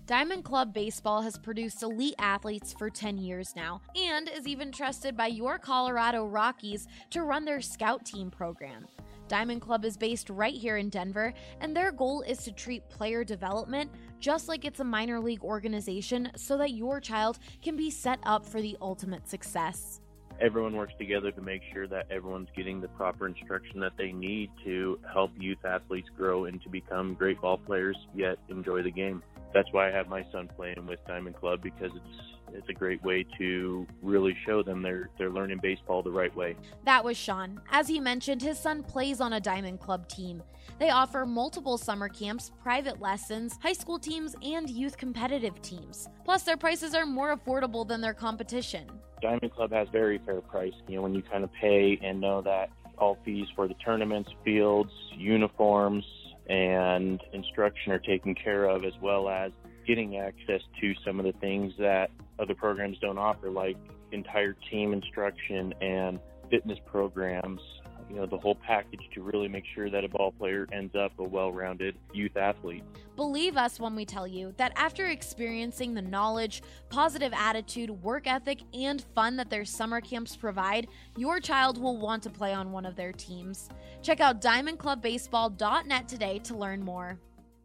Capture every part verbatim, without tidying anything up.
Diamond Club Baseball has produced elite athletes for ten years now and is even trusted by your Colorado Rockies to run their scout team program. Diamond Club is based right here in Denver, and their goal is to treat player development just like it's a minor league organization so that your child can be set up for the ultimate success. Everyone works together to make sure that everyone's getting the proper instruction that they need to help youth athletes grow and to become great ball players, yet enjoy the game. That's why I have my son playing with Diamond Club, because it's it's a great way to really show them they're they're learning baseball the right way. That was Sean. As he mentioned, his son plays on a Diamond Club team. They offer multiple summer camps, private lessons, high school teams, and youth competitive teams. Plus, their prices are more affordable than their competition. Diamond Club has very fair price. You know, when you kind of pay and know that all fees for the tournaments, fields, uniforms, and instruction are taken care of, as well as getting access to some of the things that other programs don't offer, like entire team instruction and fitness programs, you know, the whole package to really make sure that a ball player ends up a well-rounded youth athlete. Believe us when we tell you that after experiencing the knowledge, positive attitude, work ethic, and fun that their summer camps provide, your child will want to play on one of their teams. Check out diamond club baseball dot net today to learn more.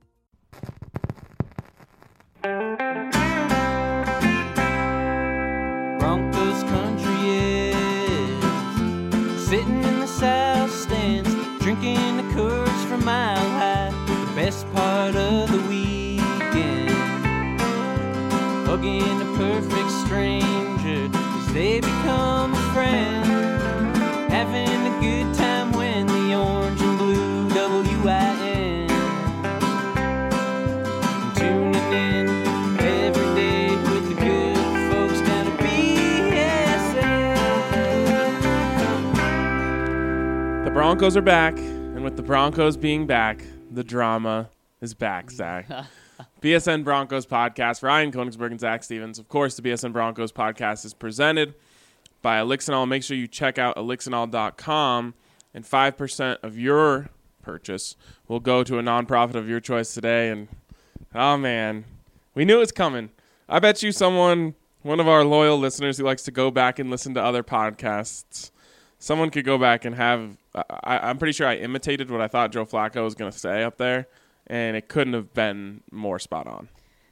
Broncos country is sitting in the south stands, drinking the Coors from Mile High. The best part of the weekend, hugging a perfect stranger as they become a friend, having a good time when the orange and blue W I N tuning in every day with the good folks down at B S N. The Broncos are back, and with the Broncos being back, the drama is back, Zach. B S N Broncos podcast, Ryan Koenigsberg and Zach Stevens. Of course, the B S N Broncos podcast is presented by Elixinol. Make sure you check out elixinol dot com, and five percent of your purchase will go to a nonprofit of your choice today. And, oh, man, we knew it was coming. I bet you someone, one of our loyal listeners who likes to go back and listen to other podcasts, someone could go back and have, I, I'm pretty sure I imitated what I thought Joe Flacco was going to say up there, and it couldn't have been more spot on.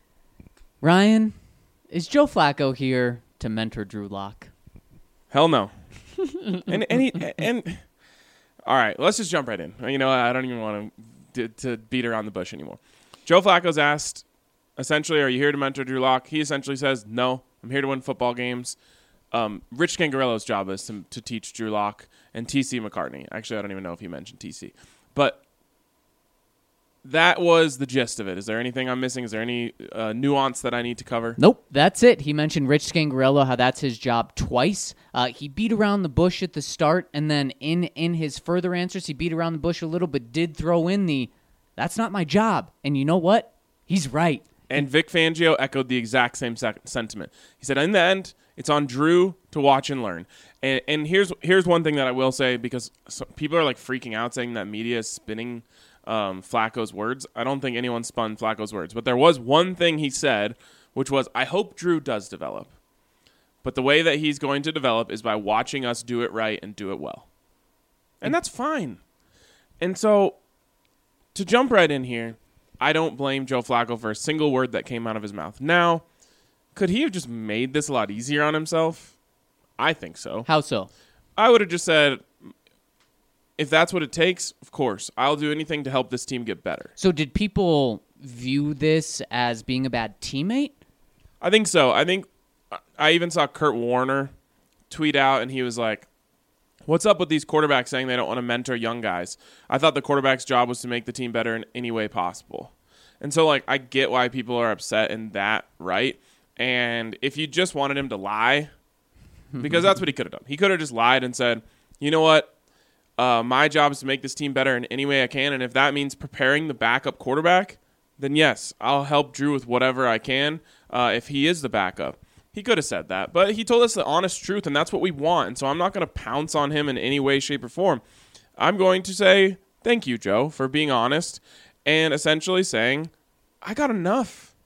Ryan, is Joe Flacco here to mentor Drew Lock? Hell no. and and, he, and all right, let's just jump right in. You know, I don't even want to to beat around the bush anymore. Joe Flacco's asked, essentially, are you here to mentor Drew Lock? He essentially says, no, I'm here to win football games. Um, Rich Scangarello's job is to, to teach Drew Lock and T C McCartney. Actually, I don't even know if he mentioned T C. But that was the gist of it. Is there anything I'm missing? Is there any uh, nuance that I need to cover? Nope, that's it. He mentioned Rich Scangarello, how that's his job twice. Uh, he beat around the bush at the start, and then in, in his further answers, he beat around the bush a little, but did throw in the, that's not my job. And you know what? He's right. And Vic Fangio echoed the exact same sec- sentiment. He said, in the end, it's on Drew to watch and learn. And, and here's here's one thing that I will say, because so, people are like freaking out saying that media is spinning um, Flacco's words. I don't think anyone spun Flacco's words. But there was one thing he said, which was, I hope Drew does develop. But the way that he's going to develop is by watching us do it right and do it well. And that's fine. And so, to jump right in here, I don't blame Joe Flacco for a single word that came out of his mouth. Now, could he have just made this a lot easier on himself? I think so. How so? I would have just said, if that's what it takes, of course, I'll do anything to help this team get better. So did people view this as being a bad teammate? I think so. I think I even saw Kurt Warner tweet out, and he was like, what's up with these quarterbacks saying they don't want to mentor young guys? I thought the quarterback's job was to make the team better in any way possible. And so, like, I get why people are upset in that, right? And if you just wanted him to lie, because that's what he could have done. He could have just lied and said, you know what? Uh, my job is to make this team better in any way I can, and if that means preparing the backup quarterback, then yes, I'll help Drew with whatever I can uh, if he is the backup. He could have said that, but he told us the honest truth, and that's what we want. And so I'm not going to pounce on him in any way, shape, or form. I'm going to say thank you, Joe, for being honest and essentially saying, I got enough. I'm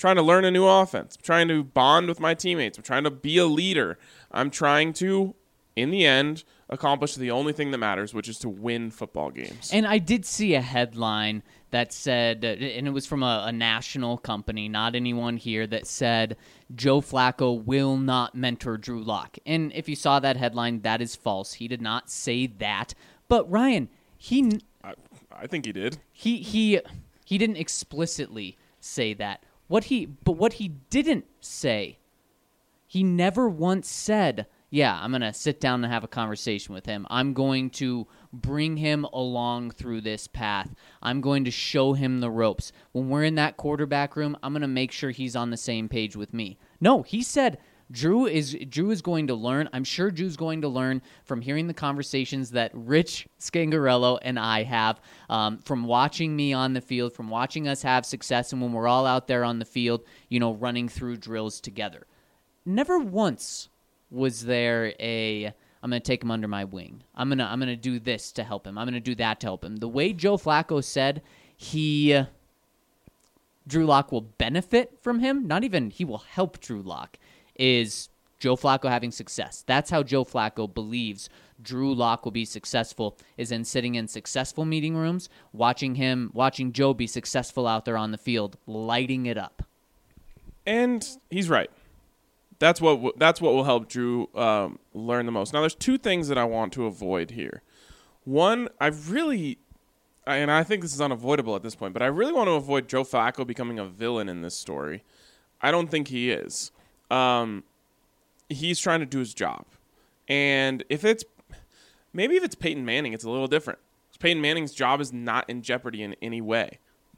trying to learn a new offense. I'm trying to bond with my teammates. I'm trying to be a leader. I'm trying to, in the end, accomplish the only thing that matters, which is to win football games. And I did see a headline that said, and it was from a, a national company, not anyone here, that said Joe Flacco will not mentor Drew Lock. And if you saw that headline, that is false. He did not say that. But Ryan, he I, I think he did. He he he didn't explicitly say that. What he but what he didn't say, he never once said, yeah, I'm going to sit down and have a conversation with him. I'm going to bring him along through this path. I'm going to show him the ropes. When we're in that quarterback room, I'm going to make sure he's on the same page with me. No, he said Drew is Drew is going to learn. I'm sure Drew's going to learn from hearing the conversations that Rich Scangarello and I have, um, from watching me on the field, from watching us have success, and when we're all out there on the field, you know, running through drills together. Never once was there a, I'm going to take him under my wing. I'm going to I'm going to do this to help him. I'm going to do that to help him. The way Joe Flacco said he, Drew Lock will benefit from him, not even he will help Drew Lock, is Joe Flacco having success. That's how Joe Flacco believes Drew Lock will be successful, is in sitting in successful meeting rooms, watching him, watching Joe be successful out there on the field, lighting it up. And he's right. That's what that's what will help Drew um, learn the most. Now, there's two things that I want to avoid here. One, I really, and I think this is unavoidable at this point, but I really want to avoid Joe Flacco becoming a villain in this story. I don't think he is. Um, he's trying to do his job. And if it's, maybe if it's Peyton Manning, it's a little different. Peyton Manning's job is not in jeopardy in any way.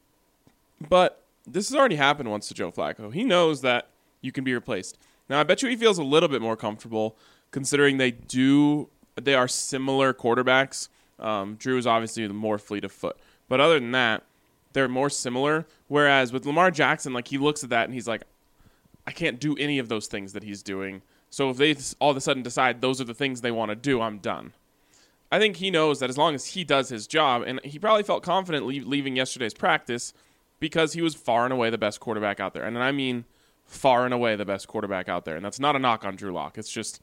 But this has already happened once to Joe Flacco. He knows that you can be replaced. Now, I bet you he feels a little bit more comfortable considering they do, they are similar quarterbacks. Um, Drew is obviously the more fleet of foot. But other than that, they're more similar. Whereas with Lamar Jackson, like, he looks at that and he's like, I can't do any of those things that he's doing. So if they all of a sudden decide those are the things they want to do, I'm done. I think he knows that as long as he does his job, and he probably felt confident leave, leaving yesterday's practice because he was far and away the best quarterback out there. And I mean far and away the best quarterback out there. And that's not a knock on Drew Lock. It's just,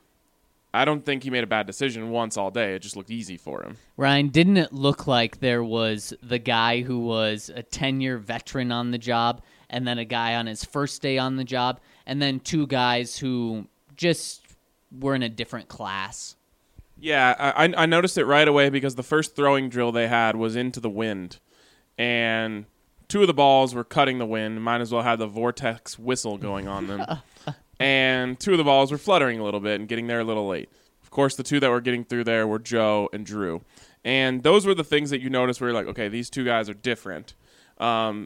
I don't think he made a bad decision once all day. It just looked easy for him. Ryan, didn't it look like there was the guy who was a ten-year veteran on the job, and then a guy on his first day on the job, and then two guys who just were in a different class? Yeah, I, I noticed it right away because the first throwing drill they had was into the wind, and two of the balls were cutting the wind. Might as well have the vortex whistle going on them. And two of the balls were fluttering a little bit and getting there a little late. Of course, the two that were getting through there were Joe and Drew. And those were the things that you noticed where you're like, okay, these two guys are different. Um,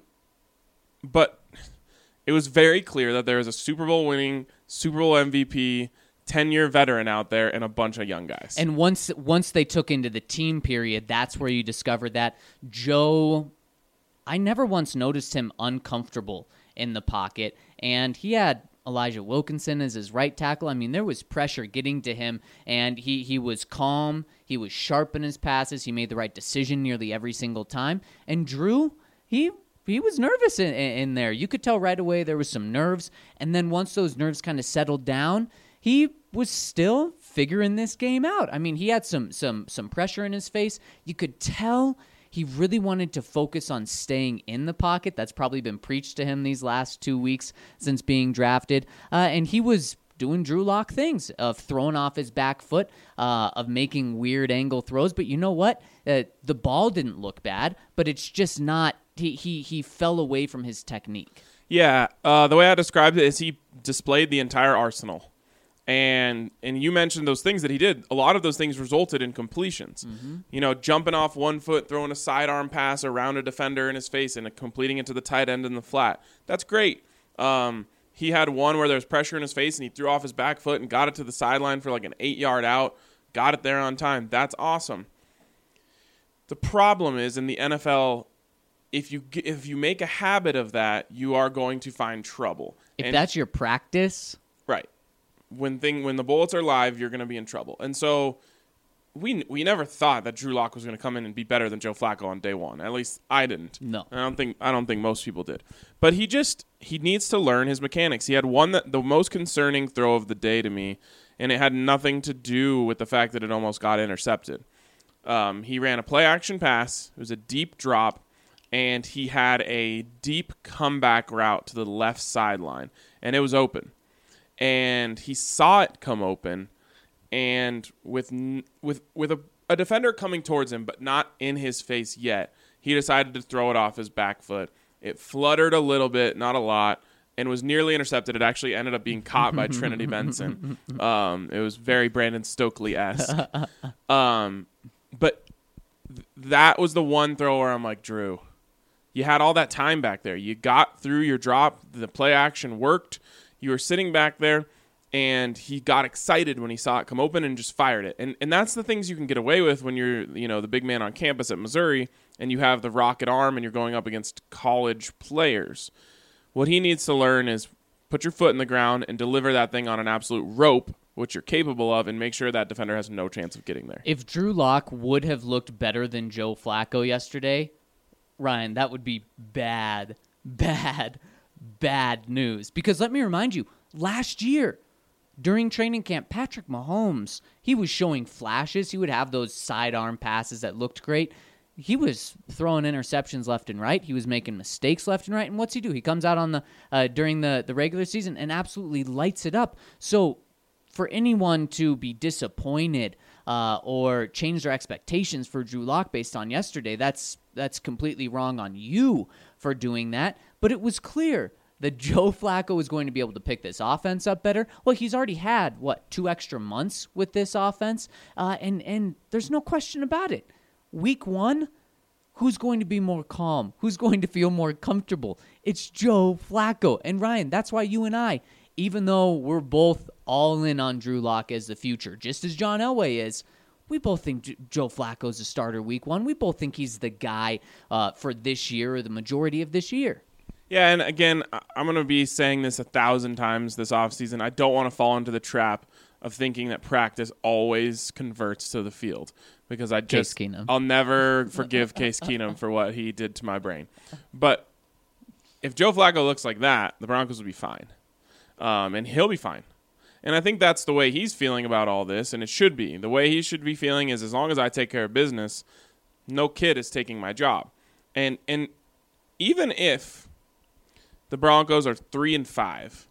but it was very clear that there was a Super Bowl winning, Super Bowl M V P, ten-year veteran out there and a bunch of young guys. And once once they took into the team period, that's where you discovered that Joe, I never once noticed him uncomfortable in the pocket. And he had Elijah Wilkinson as his right tackle. I mean, there was pressure getting to him, and he, he was calm. He was sharp in his passes. He made the right decision nearly every single time. And Drew, he he was nervous in, in there. You could tell right away there was some nerves. And then once those nerves kind of settled down, he was still figuring this game out. I mean, he had some some some pressure in his face. You could tell he really wanted to focus on staying in the pocket. That's probably been preached to him these last two weeks since being drafted. Uh, and he was doing Drew Lock things, of throwing off his back foot, uh, of making weird angle throws. But you know what? Uh, the ball didn't look bad, but it's just not, he he, he fell away from his technique. Yeah, uh, the way I described it is he displayed the entire arsenal. And and you mentioned those things that he did. A lot of those things resulted in completions. Mm-hmm. You know, jumping off one foot, throwing a sidearm pass around a defender in his face and completing it to the tight end in the flat. That's great. Um, he had one where there was pressure in his face and he threw off his back foot and got it to the sideline for like an eight-yard out. Got it there on time. That's awesome. The problem is in the N F L, if you if you make a habit of that, you are going to find trouble. If and, that's your practice, right. When thing when the bullets are live, you're going to be in trouble. And so we we never thought that Drew Lock was going to come in and be better than Joe Flacco on day one. At least I didn't. No. I don't think I don't think most people did. But he just he needs to learn his mechanics. He had one that the most concerning throw of the day to me, and it had nothing to do with the fact that it almost got intercepted. Um, he ran a play action pass. It was a deep drop, and he had a deep comeback route to the left sideline, and it was open. And he saw it come open, and with with with a, a defender coming towards him, but not in his face yet, he decided to throw it off his back foot. It fluttered a little bit, not a lot, and was nearly intercepted. It actually ended up being caught by Trinity Benson. Um, it was very Brandon Stokely-esque. Um, but th- that was the one throw where I'm like, Drew, you had all that time back there. You got through your drop. The play action worked. You were sitting back there, and he got excited when he saw it come open and just fired it. And and that's the things you can get away with when you're, you know, the big man on campus at Missouri and you have the rocket arm and you're going up against college players. What he needs to learn is put your foot in the ground and deliver that thing on an absolute rope, which you're capable of, and make sure that defender has no chance of getting there. If Drew Lock would have looked better than Joe Flacco yesterday, Ryan, that would be bad, bad, bad news. Because let me remind you, last year, during training camp, Patrick Mahomes, he was showing flashes. He would have those sidearm passes that looked great. He was throwing interceptions left and right. He was making mistakes left and right. And what's he do? He comes out on the uh, during the, the regular season and absolutely lights it up. So for anyone to be disappointed uh, or change their expectations for Drew Lock based on yesterday, that's that's completely wrong on you for doing that. But it was clear that Joe Flacco was going to be able to pick this offense up better. Well, he's already had, what, two extra months with this offense, uh, and, and there's no question about it. Week one, who's going to be more calm? Who's going to feel more comfortable? It's Joe Flacco. And Ryan, that's why you and I, even though we're both all in on Drew Lock as the future, just as John Elway is, we both think J- Joe Flacco's a starter week one. We both think he's the guy uh, for this year or the majority of this year. Yeah, and again, I'm going to be saying this a thousand times this offseason. I don't want to fall into the trap of thinking that practice always converts to the field, because I just Case Keenum. I'll never forgive Case Keenum for what he did to my brain. But if Joe Flacco looks like that, the Broncos will be fine, um, and he'll be fine. And I think that's the way he's feeling about all this, and it should be. The way he should be feeling is, as long as I take care of business, no kid is taking my job. And and even if the Broncos are three and five,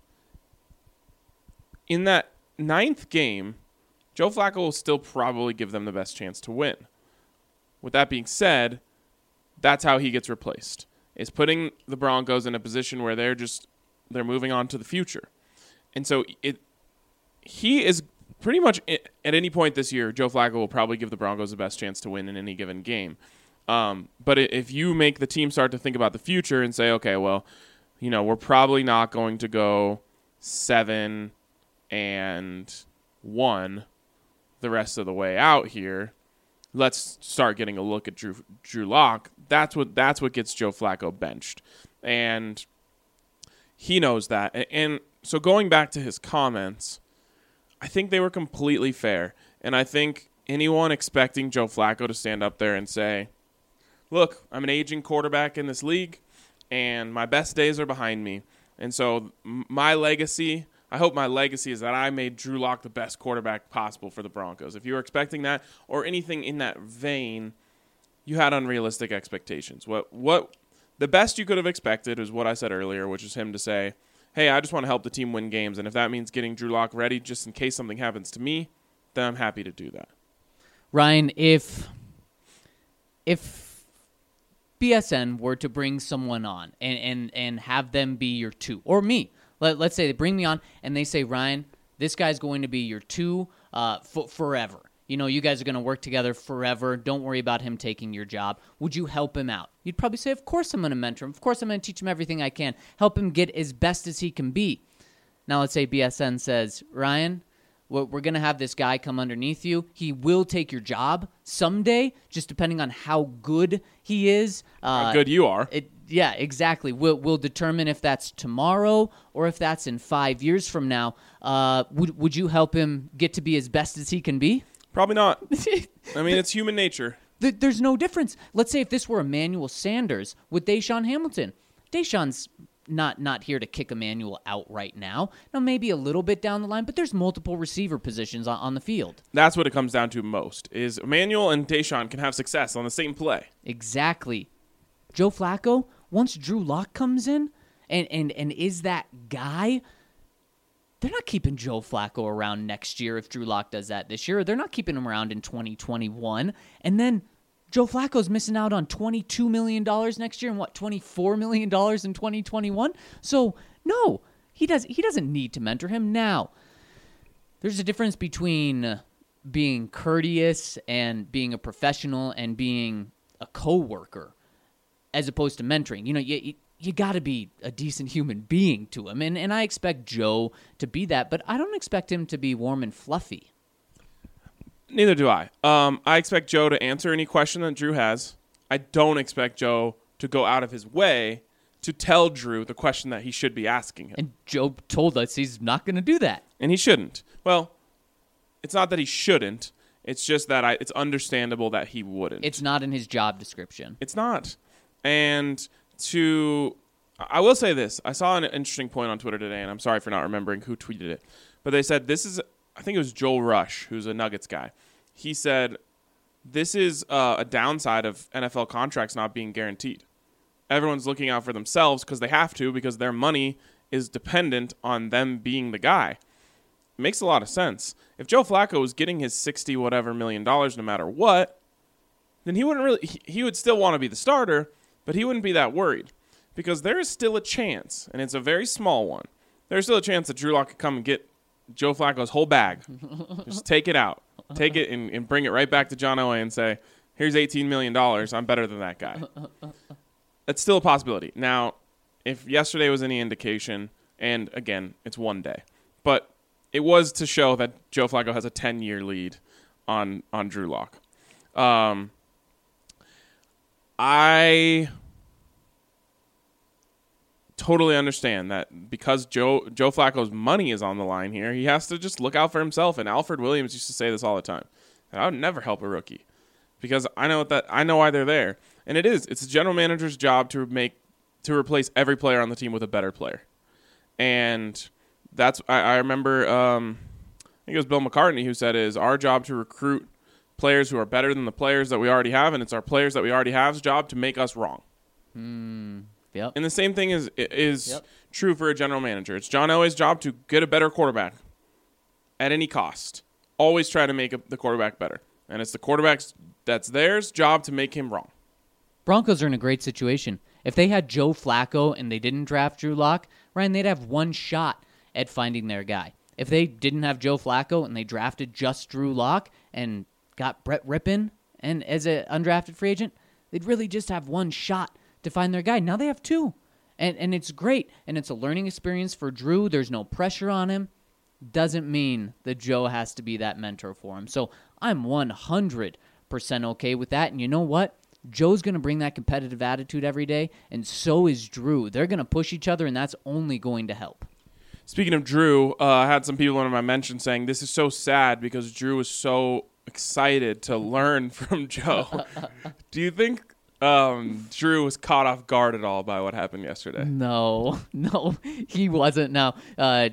in that ninth game, Joe Flacco will still probably give them the best chance to win. With that being said, that's how he gets replaced, is putting the Broncos in a position where they're just they're moving on to the future. And so it he is pretty much at any point this year, Joe Flacco will probably give the Broncos the best chance to win in any given game. Um, but if you make the team start to think about the future and say, okay, well, you know, we're probably not going to go seven and one the rest of the way out here. Let's start getting a look at Drew Drew Lock. That's what that's what gets Joe Flacco benched, and he knows that. And so going back to his comments, I think they were completely fair. And I think anyone expecting Joe Flacco to stand up there and say, "Look, I'm an aging quarterback in this league, and my best days are behind me, and so my legacy." I hope my legacy is that I made Drew Lock the best quarterback possible for the Broncos. If you were expecting that or anything in that vein, you had unrealistic expectations. What what the best you could have expected is what I said earlier, which is him to say, hey, I just want to help the team win games, and if that means getting Drew Lock ready just in case something happens to me, then I'm happy to do that. Ryan, if if B S N were to bring someone on and, and, and have them be your two, or me, Let, let's say they bring me on and they say, Ryan, this guy's going to be your two uh, f- forever. You know, you guys are going to work together forever. Don't worry about him taking your job. Would you help him out? You'd probably say, of course I'm going to mentor him. Of course I'm going to teach him everything I can. Help him get as best as he can be. Now let's say B S N says, Ryan, we're, we're going to have this guy come underneath you. He will take your job someday, just depending on how good he is. Uh, how good you are. It, Yeah, exactly. We'll, we'll determine if that's tomorrow or if that's in five years from now. Uh, would would you help him get to be as best as he can be? Probably not. I mean, it's human nature. Th- There's no difference. Let's say if this were Emmanuel Sanders with Deshaun Hamilton. Deshaun's not not here to kick Emmanuel out right now. Now, maybe a little bit down the line, but there's multiple receiver positions on, on the field. That's what it comes down to most, is Emmanuel and Deshaun can have success on the same play. Exactly. Joe Flacco, once Drew Lock comes in and, and, and is that guy, they're not keeping Joe Flacco around next year if Drew Lock does that this year. They're not keeping him around in twenty twenty-one. And then Joe Flacco's missing out on twenty-two million dollars next year and what, twenty-four million dollars in twenty twenty-one? So, no, he, does, he doesn't need to mentor him. Now, there's a difference between being courteous and being a professional and being a coworker as opposed to mentoring. You know, you, you, you got to be a decent human being to him. And, and I expect Joe to be that, but I don't expect him to be warm and fluffy. Neither do I. Um, I expect Joe to answer any question that Drew has. I don't expect Joe to go out of his way to tell Drew the question that he should be asking him. And Joe told us he's not going to do that. And he shouldn't. Well, it's not that he shouldn't. It's just that I, it's understandable that he wouldn't. It's not in his job description. It's not. And to, I will say this. I saw an interesting point on Twitter today, and I'm sorry for not remembering who tweeted it. But they said this is, I think it was Joel Rush, who's a Nuggets guy. He said, this is uh, a downside of N F L contracts not being guaranteed. Everyone's looking out for themselves because they have to, because their money is dependent on them being the guy. It makes a lot of sense. If Joe Flacco was getting his sixty whatever million dollars no matter what, then he wouldn't really, he, he would still want to be the starter, but he wouldn't be that worried, because there is still a chance, and it's a very small one. There's still a chance that Drew Lock could come and get Joe Flacco's whole bag. Just take it out. Take it and, and bring it right back to John Elway and say, here's eighteen million dollars. I'm better than that guy. That's still a possibility. Now, if yesterday was any indication, and again, it's one day, but it was to show that Joe Flacco has a ten-year lead on, on Drew Lock. Um, I totally understand that because Joe Joe Flacco's money is on the line here, he has to just look out for himself. And Alfred Williams used to say this all the time. I would never help a rookie because I know what that I know why they're there. And it is. It's a general manager's job to make to replace every player on the team with a better player. And that's I, I remember um, I think it was Bill McCartney who said it is our job to recruit players who are better than the players that we already have, and it's our players that we already have's job to make us wrong. Hmm. Yep. And the same thing is is Yep. true for a general manager. It's John Elway's job to get a better quarterback at any cost. Always try to make a, the quarterback better. And it's the quarterback's that's theirs job to make him wrong. Broncos are in a great situation. If they had Joe Flacco and they didn't draft Drew Lock, Ryan, they'd have one shot at finding their guy. If they didn't have Joe Flacco and they drafted just Drew Lock and got Brett Rippon and as an undrafted free agent, they'd really just have one shot to find their guy. Now they have two. And and it's great. And it's a learning experience for Drew. There's no pressure on him. Doesn't mean that Joe has to be that mentor for him. So I'm one hundred percent okay with that. And you know what? Joe's going to bring that competitive attitude every day, and so is Drew. They're going to push each other, and that's only going to help. Speaking of Drew, uh, I had some people in my mention saying this is so sad because Drew was so excited to learn from Joe. Do you think um, Drew was caught off guard at all by what happened yesterday? No, no, he wasn't. Now, uh,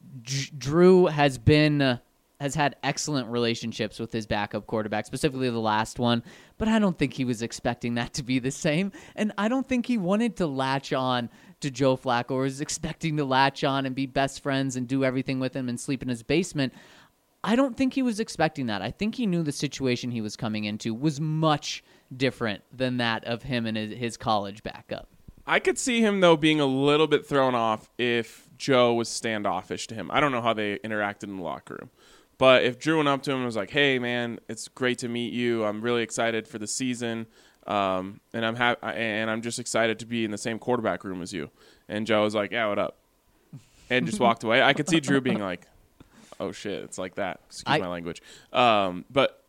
J- Drew has been uh, has had excellent relationships with his backup quarterback, specifically the last one, but I don't think he was expecting that to be the same, and I don't think he wanted to latch on to Joe Flacco or was expecting to latch on and be best friends and do everything with him and sleep in his basement. I don't think he was expecting that. I think he knew the situation he was coming into was much different than that of him and his, his college backup. I could see him, though, being a little bit thrown off if Joe was standoffish to him. I don't know how they interacted in the locker room. But if Drew went up to him and was like, hey, man, it's great to meet you. I'm really excited for the season, um, and I'm ha- and I'm just excited to be in the same quarterback room as you. And Joe was like, yeah, what up? And just walked away. I could see Drew being like, oh, shit, it's like that. Excuse I- my language. Um, but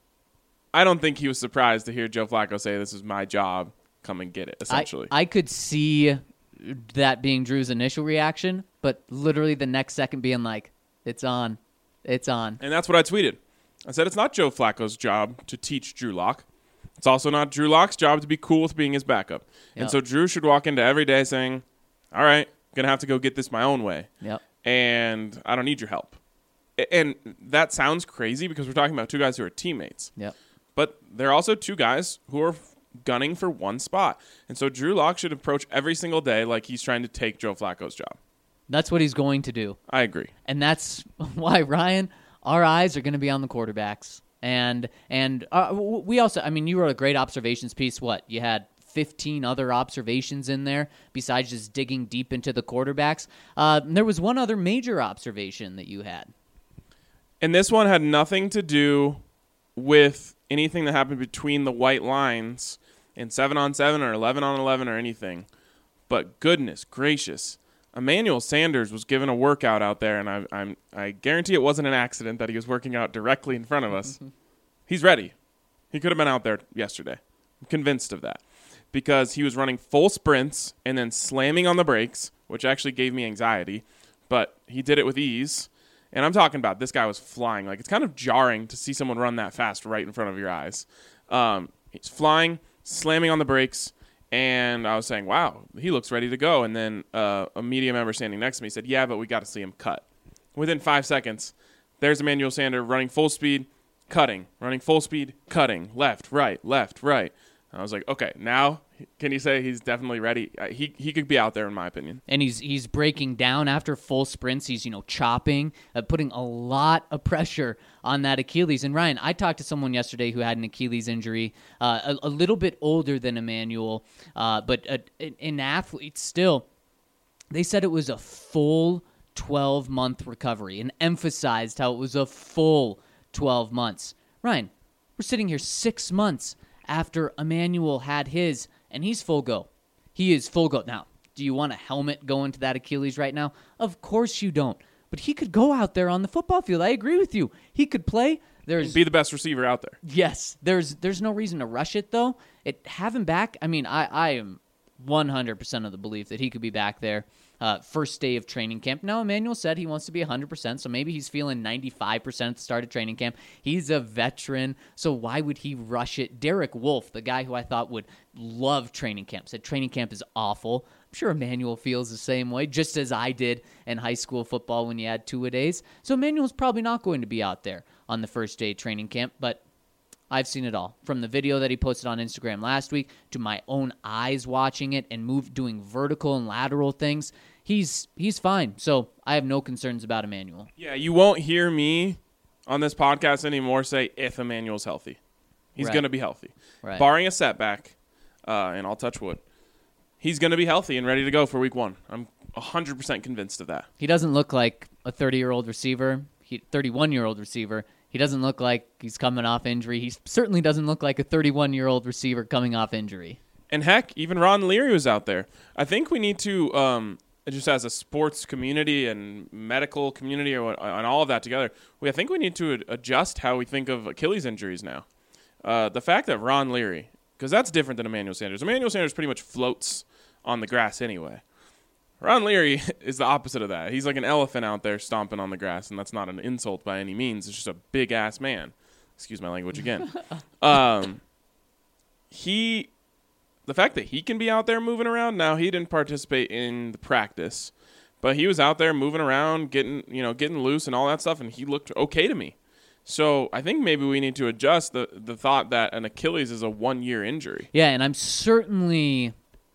I don't think he was surprised to hear Joe Flacco say, this is my job. Come and get it, essentially. I, I could see that being Drew's initial reaction, but literally the next second being like, it's on. It's on. And that's what I tweeted. I said it's not Joe Flacco's job to teach Drew Lock. It's also not Drew Lock's job to be cool with being his backup. Yep. And so Drew should walk into every day saying, all right, I'm going to have to go get this my own way. Yep. And I don't need your help. And that sounds crazy because we're talking about two guys who are teammates. Yep. But they're also two guys who are gunning for one spot. And so Drew Lock should approach every single day like he's trying to take Joe Flacco's job. That's what he's going to do. I agree. And that's why, Ryan, our eyes are going to be on the quarterbacks. And and uh, we also, I mean, you wrote a great observations piece. What? You had fifteen other observations in there besides just digging deep into the quarterbacks. Uh, there was one other major observation that you had. And this one had nothing to do with anything that happened between the white lines in seven on seven or eleven on eleven or anything. But goodness gracious, Emmanuel Sanders was given a workout out there, and I, I'm, I guarantee it wasn't an accident that he was working out directly in front of us. He's ready. He could have been out there yesterday. I'm convinced of that. Because he was running full sprints and then slamming on the brakes, which actually gave me anxiety. But he did it with ease. And I'm talking about this guy was flying. Like, it's kind of jarring to see someone run that fast right in front of your eyes. Um, he's flying, slamming on the brakes, and I was saying, wow, he looks ready to go. And then uh, a media member standing next to me said, yeah, but we got to see him cut. Within five seconds, there's Emmanuel Sanders running full speed, cutting, running full speed, cutting, left, right, left, right. I was like, okay, now can you say he's definitely ready? Uh, he he could be out there, in my opinion. And he's he's breaking down after full sprints. He's, you know, chopping, uh, putting a lot of pressure on that Achilles. And Ryan, I talked to someone yesterday who had an Achilles injury, uh, a, a little bit older than Emmanuel, uh, but a, an athlete still. They said it was a full twelve-month recovery and emphasized how it was a full twelve months. Ryan, we're sitting here six months after Emmanuel had his, and he's full go. He is full go. Now, do you want a helmet going to that Achilles right now? Of course you don't. But he could go out there on the football field. I agree with you. He could play. There's be the best receiver out there. Yes. There's there's no reason to rush it, though. It have him back. I mean, I, I am one hundred percent of the belief that he could be back there uh, first day of training camp. Now, Emmanuel said he wants to be one hundred percent, so maybe he's feeling ninety-five percent at the start of training camp. He's a veteran, so why would he rush it? Derek Wolfe, the guy who I thought would love training camp, said training camp is awful. I'm sure Emmanuel feels the same way, just as I did in high school football when you had two-a-days. So Emmanuel's probably not going to be out there on the first day of training camp, but I've seen it all. From the video that he posted on Instagram last week to my own eyes watching it and move doing vertical and lateral things. He's he's fine. So I have no concerns about Emmanuel. Yeah, you won't hear me on this podcast anymore say if Emmanuel's healthy. He's Right. going to be healthy. Right. Barring a setback, uh, and I'll touch wood, he's going to be healthy and ready to go for week one. I'm one hundred percent convinced of that. He doesn't look like a thirty-year-old receiver, he, thirty-one-year-old receiver. He doesn't look like he's coming off injury. He certainly doesn't look like a thirty-one-year-old receiver coming off injury. And heck, even Ron Leary was out there. I think we need to, um, just as a sports community and medical community or, and all of that together, we I think we need to adjust how we think of Achilles injuries now. Uh, the fact that Ron Leary, because that's different than Emmanuel Sanders. Emmanuel Sanders pretty much floats on the grass anyway. Ron Leary is the opposite of that. He's like an elephant out there stomping on the grass, and that's not an insult by any means. It's just a big-ass man. Excuse my language again. um, he, the fact that he can be out there moving around, now he didn't participate in the practice, but he was out there moving around, getting, you know, getting loose and all that stuff, and he looked okay to me. So I think maybe we need to adjust the, the thought that an Achilles is a one-year injury. Yeah, and I'm certainly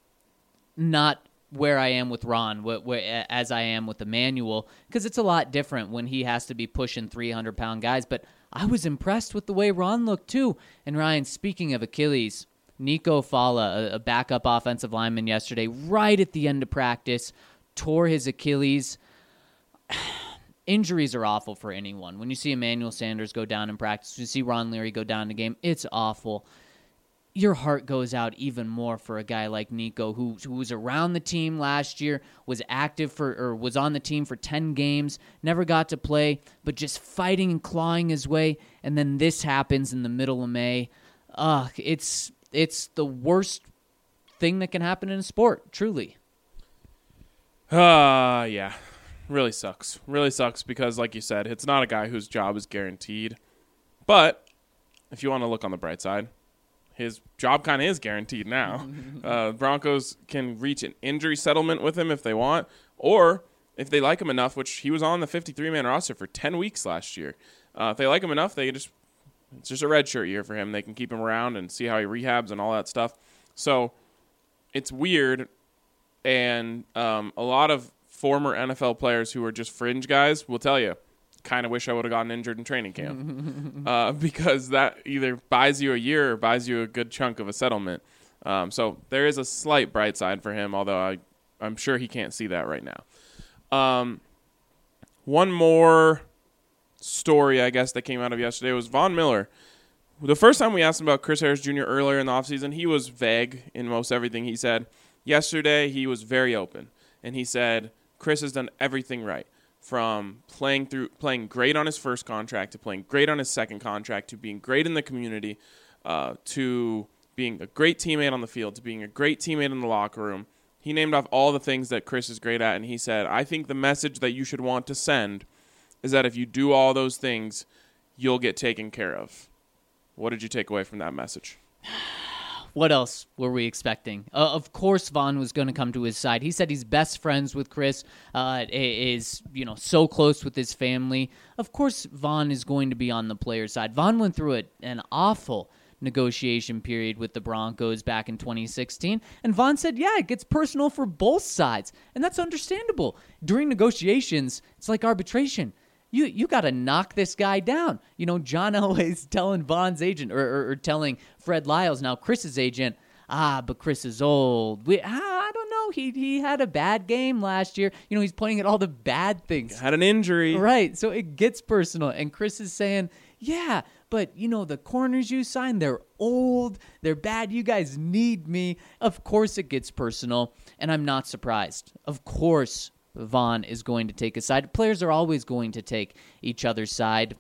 not where I am with Ron, wh- wh- as I am with Emmanuel, because it's a lot different when he has to be pushing three hundred pound guys. But I was impressed with the way Ron looked, too. And Ryan, speaking of Achilles, Nico Fala, a, a backup offensive lineman yesterday, right at the end of practice, tore his Achilles. Injuries are awful for anyone. When you see Emmanuel Sanders go down in practice, when you see Ron Leary go down in the game, it's awful. Your heart goes out even more for a guy like Nico, who who was around the team last year, was active for or was on the team for ten games, never got to play, but just fighting and clawing his way, and then this happens in the middle of May. Ugh, it's it's the worst thing that can happen in a sport, truly. Uh, yeah. Really sucks. Really sucks because, like you said, it's not a guy whose job is guaranteed But if you want to look on the bright side, his job kind of is guaranteed now. uh, Broncos can reach an injury settlement with him if they want, or if they like him enough, which he was on the fifty-three man roster for ten weeks last year. Uh, if they like him enough, they just it's just a redshirt year for him. They can keep him around and see how he rehabs and all that stuff. So it's weird, and um, a lot of former N F L players who are just fringe guys will tell you, kind of wish I would have gotten injured in training camp uh, because that either buys you a year or buys you a good chunk of a settlement. Um, so there is a slight bright side for him, although I, I'm sure he can't see that right now. Um, one more story, I guess, that came out of yesterday was Von Miller. The first time we asked him about Chris Harris Junior earlier in the offseason, he was vague in most everything he said. Yesterday, he was very open, and he said Chris has done everything right. From playing through playing great on his first contract to playing great on his second contract to being great in the community uh, to being a great teammate on the field to being a great teammate in the locker room. He named off all the things that Chris is great at, and he said, I think the message that you should want to send is that if you do all those things, you'll get taken care of. What did you take away from that message? What else were we expecting? Uh, of course, Von was going to come to his side. He said he's best friends with Chris, uh, is you know so close with his family. Of course, Von is going to be on the player side. Von went through a, an awful negotiation period with the Broncos back in twenty sixteen, and Von said, yeah, it gets personal for both sides, and that's understandable. During negotiations, it's like arbitration. You you got to knock this guy down. You know, John Elway's telling Von's agent, or, or, or telling Fred Lyles, now Chris's agent, ah, but Chris is old. We, ah, I don't know. He he had a bad game last year. You know, he's pointing at all the bad things. Had an injury. Right, so it gets personal. And Chris is saying, yeah, but, you know, the corners you signed, they're old. They're bad. You guys need me. Of course it gets personal, and I'm not surprised. Of course Von is going to take a side. Players are always going to take each other's side.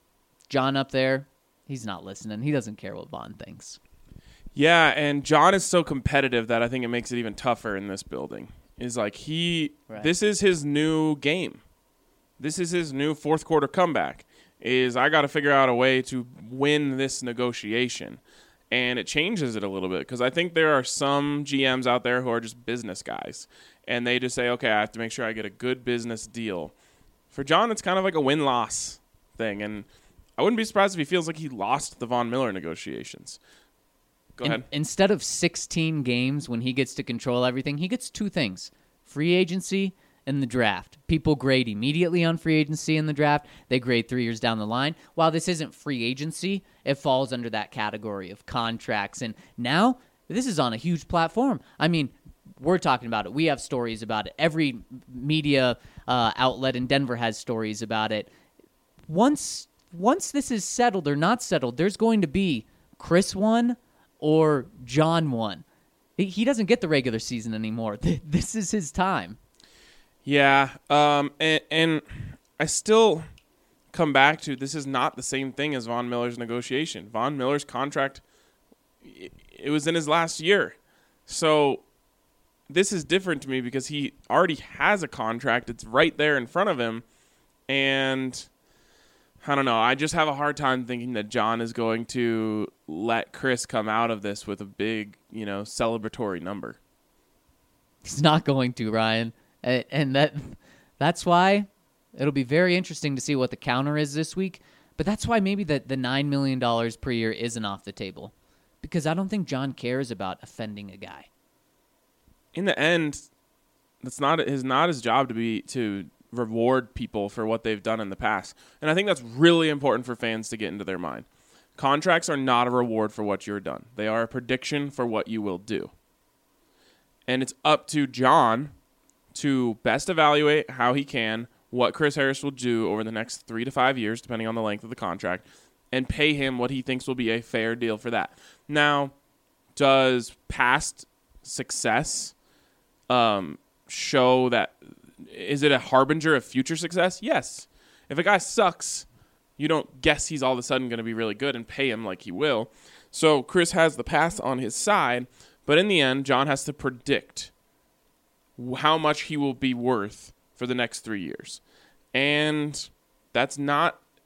John up there, he's not listening. He doesn't care what Von thinks. Yeah, and John is so competitive that I think it makes it even tougher in this building. Is like he, right. This is his new game. This is his new fourth quarter comeback. Is I got to figure out a way to win this negotiation. And it changes it a little bit because I think there are some G Ms out there who are just business guys. And they just say, okay, I have to make sure I get a good business deal. For John, it's kind of like a win-loss thing. And I wouldn't be surprised if he feels like he lost the Von Miller negotiations. Go In, ahead. Instead of sixteen games when he gets to control everything, he gets two things. Free agency and the draft. People grade immediately on free agency in the draft. They grade three years down the line. While this isn't free agency, it falls under that category of contracts. And now, this is on a huge platform. I mean, we're talking about it. We have stories about it. Every media uh, outlet in Denver has stories about it. Once once this is settled or not settled, there's going to be Chris won or John won. He doesn't get the regular season anymore. This is his time. Yeah, um, and, and I still come back to this is not the same thing as Von Miller's negotiation. Von Miller's contract, it was in his last year. So this is different to me because he already has a contract. It's right there in front of him. And I don't know. I just have a hard time thinking that John is going to let Chris come out of this with a big, you know, celebratory number. He's not going to, Ryan. And that that's why it'll be very interesting to see what the counter is this week. But that's why maybe the, the nine million dollars per year isn't off the table. Because I don't think John cares about offending a guy. In the end, that's not his not his job to be to reward people for what they've done in the past. And I think that's really important for fans to get into their mind. Contracts are not a reward for what you've done. They are a prediction for what you will do. And it's up to John to best evaluate how he can, what Chris Harris will do over the next three to five years, depending on the length of the contract, and pay him what he thinks will be a fair deal for that. Now, does past success um, show that, is it a harbinger of future success? Yes. If a guy sucks, you don't guess he's all of a sudden going to be really good and pay him like he will. So Chris has the past on his side, but in the end, John has to predict how much he will be worth for the next three years. And that's not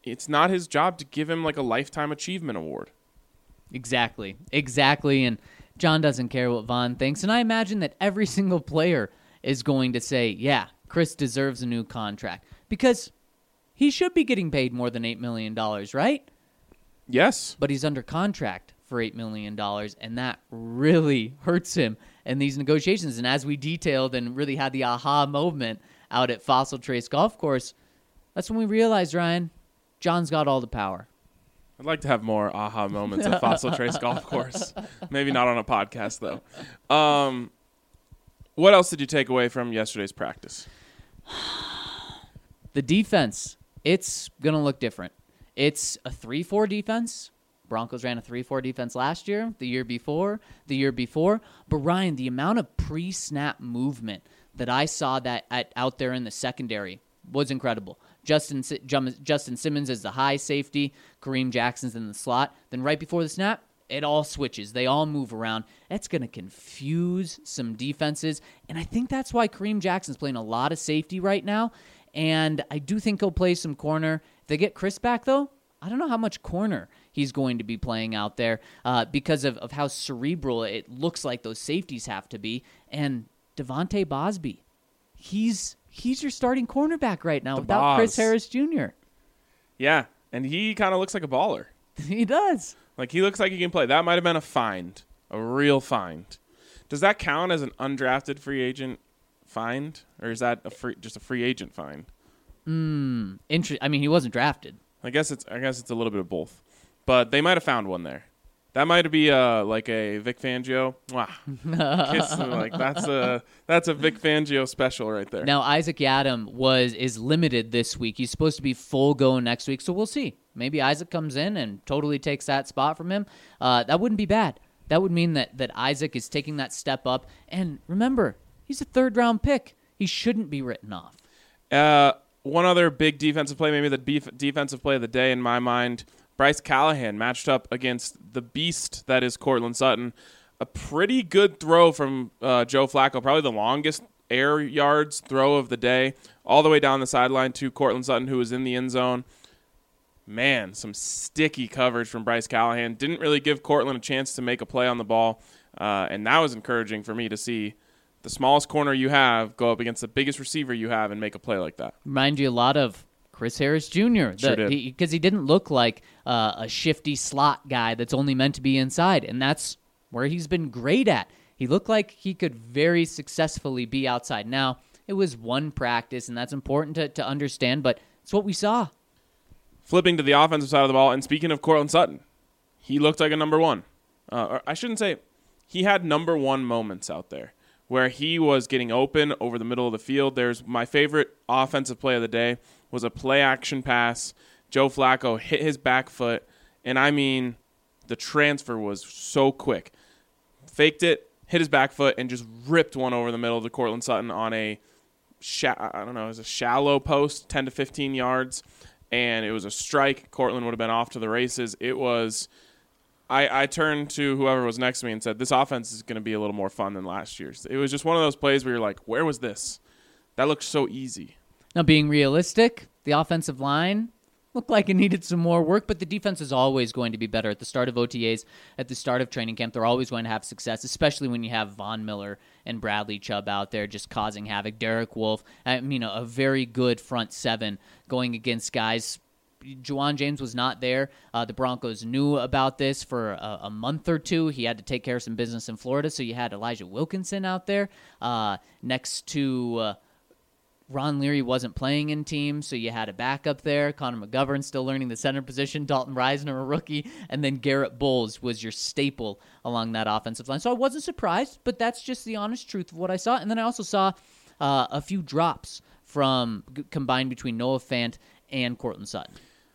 it's not his job to give him like a lifetime achievement award. Exactly. Exactly. And John doesn't care what Vaughn thinks. And I imagine that every single player is going to say, yeah, Chris deserves a new contract. Because he should be getting paid more than eight million dollars, right? Yes. But he's under contract for eight million dollars, and that really hurts him in these negotiations. And as we detailed and really had the aha moment out at Fossil Trace Golf Course, that's when we realized, Ryan, John's got all the power. I'd like to have more aha moments at Fossil Trace Golf Course. Maybe not on a podcast, though. Um, what else did you take away from yesterday's practice? The defense, it's going to look different. It's a three four defense. Broncos ran a three four defense last year, the year before, the year before. But, Ryan, the amount of pre-snap movement that I saw that at, out there in the secondary was incredible. Justin Justin Simmons is the high safety. Kareem Jackson's in the slot. Then right before the snap, it all switches. They all move around. That's going to confuse some defenses. And I think that's why Kareem Jackson's playing a lot of safety right now. And I do think he'll play some corner. If they get Chris back, though, I don't know how much corner he's going to be playing out there uh, because of, of how cerebral it looks like those safeties have to be. And Devontae Bosby, he's... He's your starting cornerback right now the without boss. Chris Harris Junior Yeah, and he kind of looks like a baller. He does. Like, he looks like he can play. That might have been a find, a real find. Does that count as an undrafted free agent find, or is that a free, just a free agent find? Hmm. Inter- I mean, he wasn't drafted. I guess it's I guess it's a little bit of both, but they might have found one there. That might be uh, like a Vic Fangio. Wow. Kiss, like that's a that's a Vic Fangio special right there. Now Isaac Yiadom was is limited this week. He's supposed to be full go next week, so we'll see. Maybe Isaac comes in and totally takes that spot from him. Uh, that wouldn't be bad. That would mean that that Isaac is taking that step up. And remember, he's a third round pick. He shouldn't be written off. Uh, one other big defensive play, maybe the beef, defensive play of the day in my mind. Bryce Callahan matched up against the beast that is Courtland Sutton. A pretty good throw from uh, Joe Flacco, probably the longest air yards throw of the day, all the way down the sideline to Courtland Sutton, who was in the end zone. Man, some sticky coverage from Bryce Callahan. Didn't really give Courtland a chance to make a play on the ball, uh, and that was encouraging for me to see the smallest corner you have go up against the biggest receiver you have and make a play like that. Remind you a lot of Chris Harris Junior Sure did. Because he, he didn't look like uh, a shifty slot guy that's only meant to be inside, and that's where he's been great at. He looked like he could very successfully be outside. Now, it was one practice, and that's important to, to understand, but it's what we saw. Flipping to the offensive side of the ball, and speaking of Courtland Sutton, he looked like a number one. Uh, or I shouldn't say, he had number one moments out there where he was getting open over the middle of the field. There's my favorite offensive play of the day was a play-action pass. Joe Flacco hit his back foot, and I mean, the transfer was so quick. Faked it, hit his back foot, and just ripped one over the middle to Courtland Sutton on a, sha- I don't know, it was a shallow post, ten to fifteen yards, and it was a strike. Courtland would have been off to the races. It was, I, I turned to whoever was next to me and said, this offense is going to be a little more fun than last year's. It was just one of those plays where you're like, where was this? That looked so easy. Now, being realistic, the offensive line looked like it needed some more work, but the defense is always going to be better. At the start of O T As, at the start of training camp, they're always going to have success, especially when you have Von Miller and Bradley Chubb out there just causing havoc. Derek Wolfe, I mean, a very good front seven going against guys. Juwan James was not there. Uh, the Broncos knew about this for a, a month or two. He had to take care of some business in Florida, so you had Elijah Wilkinson out there uh, next to... Uh, Ron Leary wasn't playing in team, so you had a backup there. Connor McGovern still learning the center position. Dalton Reisner, a rookie. And then Garrett Bowles was your staple along that offensive line. So I wasn't surprised, but that's just the honest truth of what I saw. And then I also saw uh, a few drops from g- combined between Noah Fant and Courtland Sutton.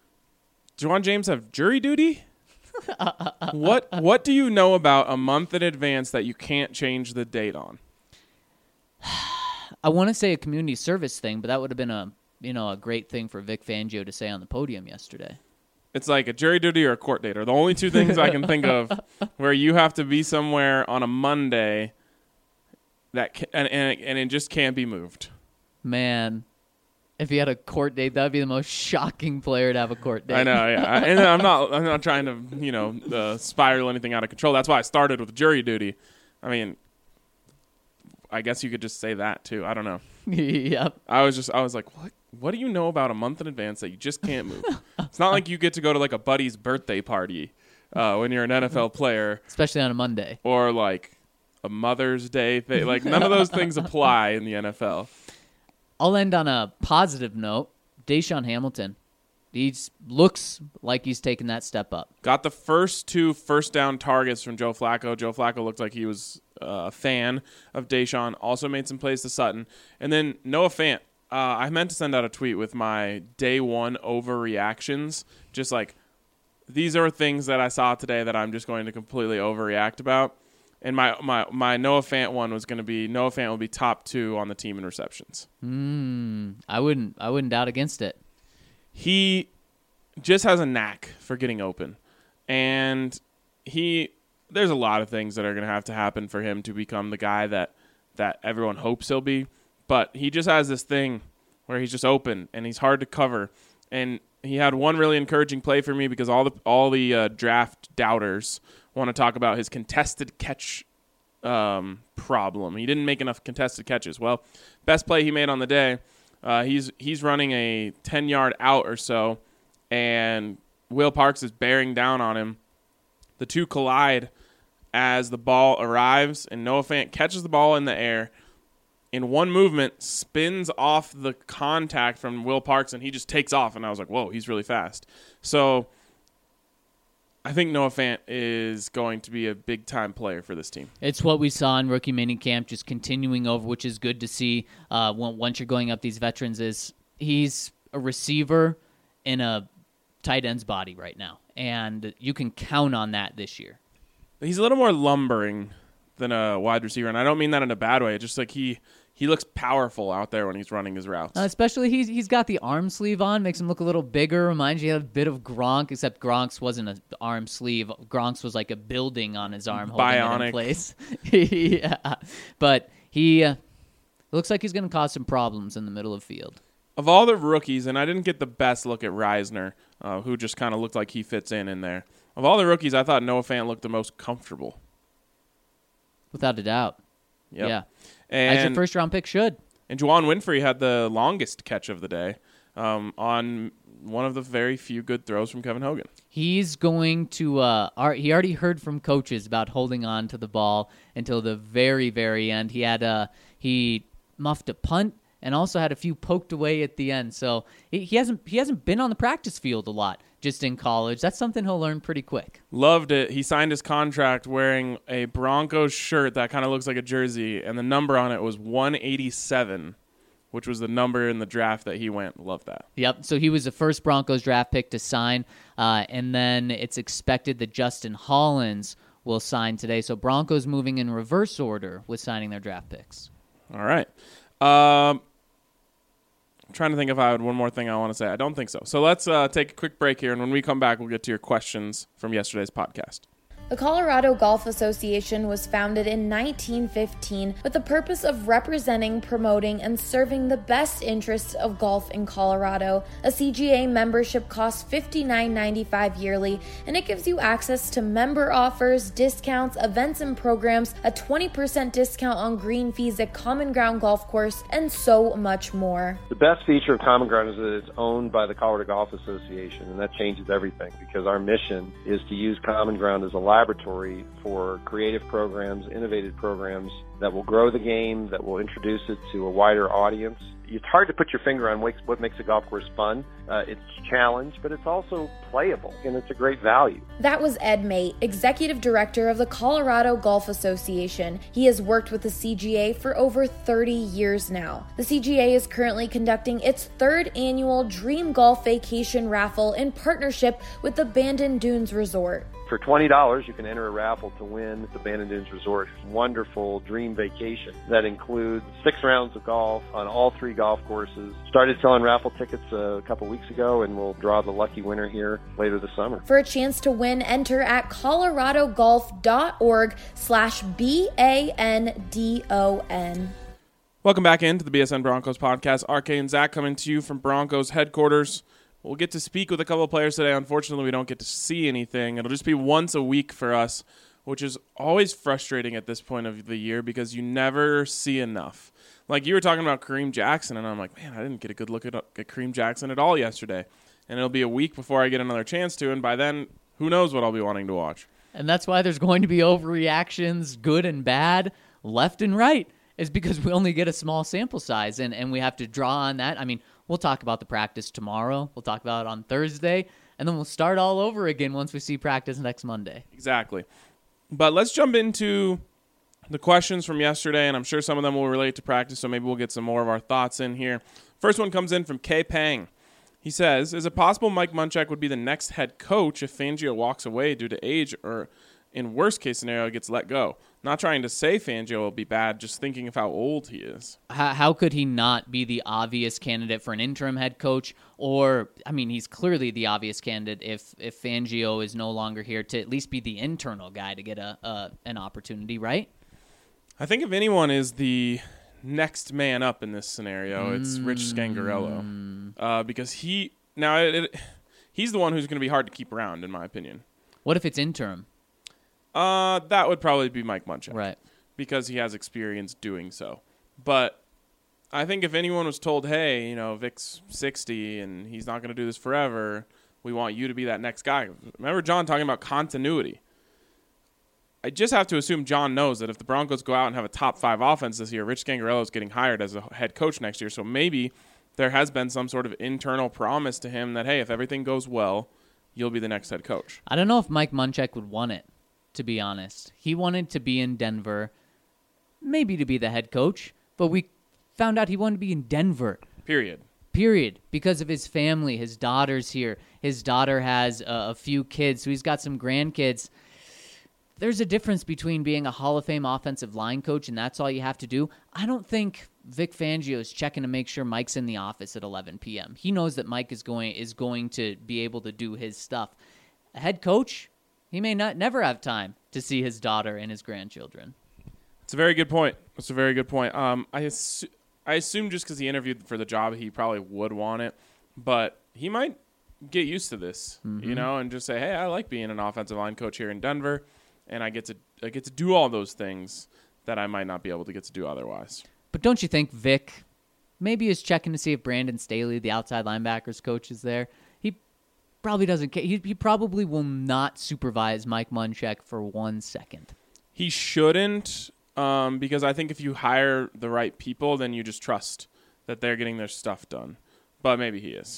Juwan James have jury duty? what What do you know about a month in advance that you can't change the date on? I want to say a community service thing, but that would have been a you know a great thing for Vic Fangio to say on the podium yesterday. It's like a jury duty or a court date are the only two things I can think of where you have to be somewhere on a Monday that can, and, and, it, and it just can't be moved. Man, if he had a court date, that'd be the most shocking player to have a court date. I know, yeah. I, and I'm not, I'm not trying to, you know, uh, spiral anything out of control. That's why I started with jury duty. I mean, I guess you could just say that too. I don't know. Yep. I was just, I was like, what? What do you know about a month in advance that you just can't move? It's not like you get to go to like a buddy's birthday party uh, when you're an N F L player, especially on a Monday, or like a Mother's Day thing. Like none of those things apply in the N F L. I'll end on a positive note. Deshaun Hamilton, he looks like he's taking that step up. Got the first two first down targets from Joe Flacco. Joe Flacco looked like he was uh, a fan of Deshaun. Also made some plays to Sutton. And then Noah Fant. Uh, I meant to send out a tweet with my day one overreactions. Just like, these are things that I saw today that I'm just going to completely overreact about. And my, my, my Noah Fant one was going to be Noah Fant will be top two on the team in receptions. Mm, I wouldn't I wouldn't doubt against it. He just has a knack for getting open. And he there's a lot of things that are going to have to happen for him to become the guy that, that everyone hopes he'll be. But he just has this thing where he's just open and he's hard to cover. And he had one really encouraging play for me because all the all the uh, draft doubters want to talk about his contested catch um, problem. He didn't make enough contested catches. Well, best play he made on the day, uh, he's he's running a ten-yard out or so, and Will Parks is bearing down on him. The two collide as the ball arrives, and Noah Fant catches the ball in the air. In one movement, spins off the contact from Will Parks, and he just takes off. And I was like, whoa, he's really fast. So I think Noah Fant is going to be a big-time player for this team. It's what we saw in rookie minicamp, just continuing over, which is good to see uh, once you're going up these veterans. Is he's a receiver in a tight end's body right now, and you can count on that this year. He's a little more lumbering than a wide receiver, and I don't mean that in a bad way. It's just like he... He looks powerful out there when he's running his routes. Uh, especially he's he's got the arm sleeve on, makes him look a little bigger. Reminds you of a bit of Gronk, except Gronk's wasn't an arm sleeve. Gronk's was like a building on his arm, holding Bionic. it in place. Yeah, but he uh, looks like he's going to cause some problems in the middle of field. Of all the rookies, and I didn't get the best look at Reisner, uh, who just kind of looked like he fits in in there. Of all the rookies, I thought Noah Fant looked the most comfortable. Without a doubt. Yep. Yeah. And, as your first round pick should. And Juwan Winfrey had the longest catch of the day um, on one of the very few good throws from Kevin Hogan. He's going to uh, – he already heard from coaches about holding on to the ball until the very, very end. He had a, he muffed a punt and also had a few poked away at the end. So he, he hasn't he hasn't been on the practice field a lot just in college. That's something he'll learn pretty quick. Loved it. He signed his contract wearing a Broncos shirt that kind of looks like a jersey, and the number on it was one eighty-seven, which was the number in the draft that he went. Love that. Yep. So he was the first Broncos draft pick to sign, uh, and then it's expected that Justin Hollins will sign today. So Broncos moving in reverse order with signing their draft picks. All right. Um, I'm trying to think if I had one more thing I want to say. I don't think so. So let's uh, take a quick break here, and when we come back, we'll get to your questions from yesterday's podcast. The Colorado Golf Association was founded in nineteen fifteen with the purpose of representing, promoting, and serving the best interests of golf in Colorado. A C G A membership costs fifty-nine ninety-five yearly, and it gives you access to member offers, discounts, events and programs, a twenty percent discount on green fees at Common Ground Golf Course, and so much more. The best feature of Common Ground is that it's owned by the Colorado Golf Association, and that changes everything because our mission is to use Common Ground as a laboratory for creative programs, innovative programs that will grow the game, that will introduce it to a wider audience. It's hard to put your finger on what makes a golf course fun. Uh, it's a challenge, but it's also playable, and it's a great value. That was Ed Mate, Executive Director of the Colorado Golf Association. He has worked with the C G A for over thirty years now. The C G A is currently conducting its third annual Dream Golf Vacation Raffle in partnership with the Bandon Dunes Resort. For twenty dollars, you can enter a raffle to win the Bandon Dunes Resort wonderful dream vacation that includes six rounds of golf on all three golf courses. Started selling raffle tickets a couple weeks ago, and we'll draw the lucky winner here later this summer. For a chance to win, enter at coloradogolf.org slash B A N D O N. Welcome back into the B S N Broncos podcast. R K and Zach coming to you from Broncos headquarters. We'll get to speak with a couple of players today. Unfortunately, we don't get to see anything. It'll just be once a week for us, which is always frustrating at this point of the year because you never see enough. Like you were talking about Kareem Jackson, and I'm like, man, I didn't get a good look at, at Kareem Jackson at all yesterday. And it'll be a week before I get another chance to, and by then, who knows what I'll be wanting to watch. And that's why there's going to be overreactions, good and bad, left and right. Is because we only get a small sample size, and, and we have to draw on that. I mean, we'll talk about the practice tomorrow. We'll talk about it on Thursday, and then we'll start all over again once we see practice next Monday. Exactly. But let's jump into the questions from yesterday, and I'm sure some of them will relate to practice, so maybe we'll get some more of our thoughts in here. First one comes in from K. Pang. He says, is it possible Mike Munchak would be the next head coach if Fangio walks away due to age or, in worst case scenario, gets let go? Not trying to say Fangio will be bad, just thinking of how old he is. How, how could he not be the obvious candidate for an interim head coach? Or, I mean, he's clearly the obvious candidate if, if Fangio is no longer here to at least be the internal guy to get a, a an opportunity, right? I think if anyone is the next man up in this scenario, it's Rich Scangarello. Uh, because he, now, it, it, he's the one who's going to be hard to keep around, in my opinion. What if it's interim? Uh, that would probably be Mike Munchak. Right. Because he has experience doing so. But I think if anyone was told, hey, you know, Vic's sixty and he's not going to do this forever, we want you to be that next guy. Remember John talking about continuity. I just have to assume John knows that if the Broncos go out and have a top five offense this year, Rich Scangarello is getting hired as a head coach next year. So maybe there has been some sort of internal promise to him that, hey, if everything goes well, you'll be the next head coach. I don't know if Mike Munchak would want it. To be honest, he wanted to be in Denver, maybe to be the head coach, but we found out he wanted to be in Denver. Period. Period. Because of his family, his daughter's here. His daughter has uh, a few kids, so he's got some grandkids. There's a difference between being a Hall of Fame offensive line coach and that's all you have to do. I don't think Vic Fangio is checking to make sure Mike's in the office at eleven p.m. He knows that Mike is going is going to be able to do his stuff. A head coach, he may not never have time to see his daughter and his grandchildren. It's a very good point. It's a very good point. Um, I assu- I assume just because he interviewed for the job, he probably would want it, but he might get used to this, mm-hmm. you know, and just say, hey, I like being an offensive line coach here in Denver, and I get to I get to do all those things that I might not be able to get to do otherwise. But don't you think Vic maybe is checking to see if Brandon Staley, the outside linebackers coach, is there? Probably doesn't care. He, he probably will not supervise Mike Munchak for one second. He shouldn't, um, because I think if you hire the right people, then you just trust that they're getting their stuff done. But maybe he is.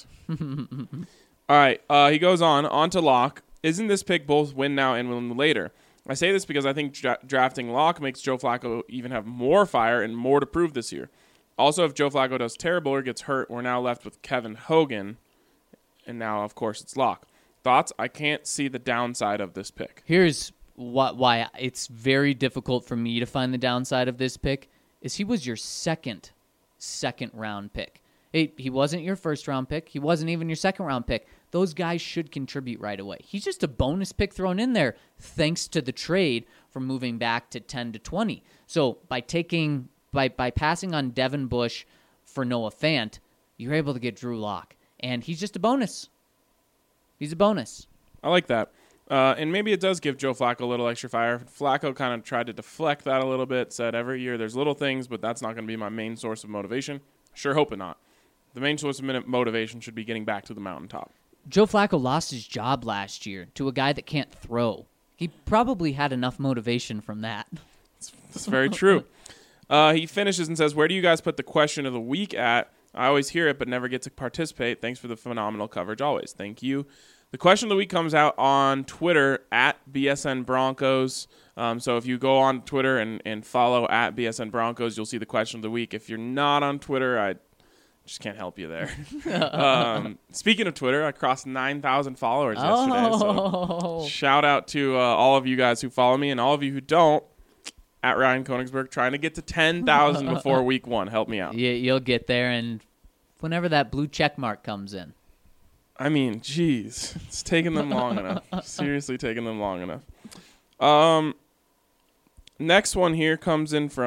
All right. Uh, he goes on. On to Locke. Isn't this pick both win now and win later? I say this because I think dra- drafting Locke makes Joe Flacco even have more fire and more to prove this year. Also, if Joe Flacco does terrible or gets hurt, we're now left with Kevin Hogan. And now, of course, it's Locke. Thoughts? I can't see the downside of this pick. Here's what, why it's very difficult for me to find the downside of this pick is he was your second, second round pick. He, he wasn't your first round pick. He wasn't even your second round pick. Those guys should contribute right away. He's just a bonus pick thrown in there thanks to the trade from moving back to ten to twenty. So by taking by by passing on Devin Bush for Noah Fant, you're able to get Drew Lock. And he's just a bonus. He's a bonus. I like that. Uh, and maybe it does give Joe Flacco a little extra fire. Flacco kind of tried to deflect that a little bit, said every year there's little things, but that's not going to be my main source of motivation. Sure hoping not. The main source of motivation should be getting back to the mountaintop. Joe Flacco lost his job last year to a guy that can't throw. He probably had enough motivation from that. That's, that's very true. Uh, he finishes and says, where do you guys put the question of the week at? I always hear it, but never get to participate. Thanks for the phenomenal coverage always. Thank you. The question of the week comes out on Twitter at B S N Broncos. Um, so if you go on Twitter and, and follow at B S N Broncos, you'll see the question of the week. If you're not on Twitter, I just can't help you there. um, speaking of Twitter, I crossed nine thousand followers yesterday. Oh. So shout out to uh, all of you guys who follow me and all of you who don't. At Ryan Koenigsberg, trying to get to ten thousand before week one. Help me out. Yeah, you'll get there, and whenever that blue check mark comes in. I mean, geez, it's taking them long enough. Seriously, taking them long enough. Um, next one here comes in from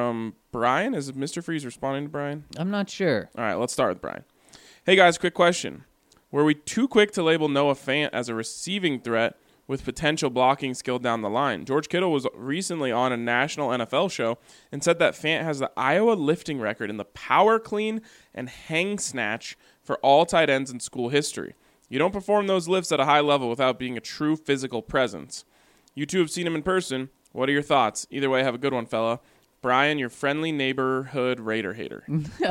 Brian? Is Mister Freeze responding to Brian? I'm not sure. All right, let's start with Brian. Hey, guys, quick question. Were we too quick to label Noah Fant as a receiving threat with potential blocking skill down the line? George Kittle was recently on a national N F L show and said that Fant has the Iowa lifting record in the power clean and hang snatch for all tight ends in school history. You don't perform those lifts at a high level without being a true physical presence. You two have seen him in person. What are your thoughts? Either way, have a good one, fella. Brian, your friendly neighborhood Raider hater.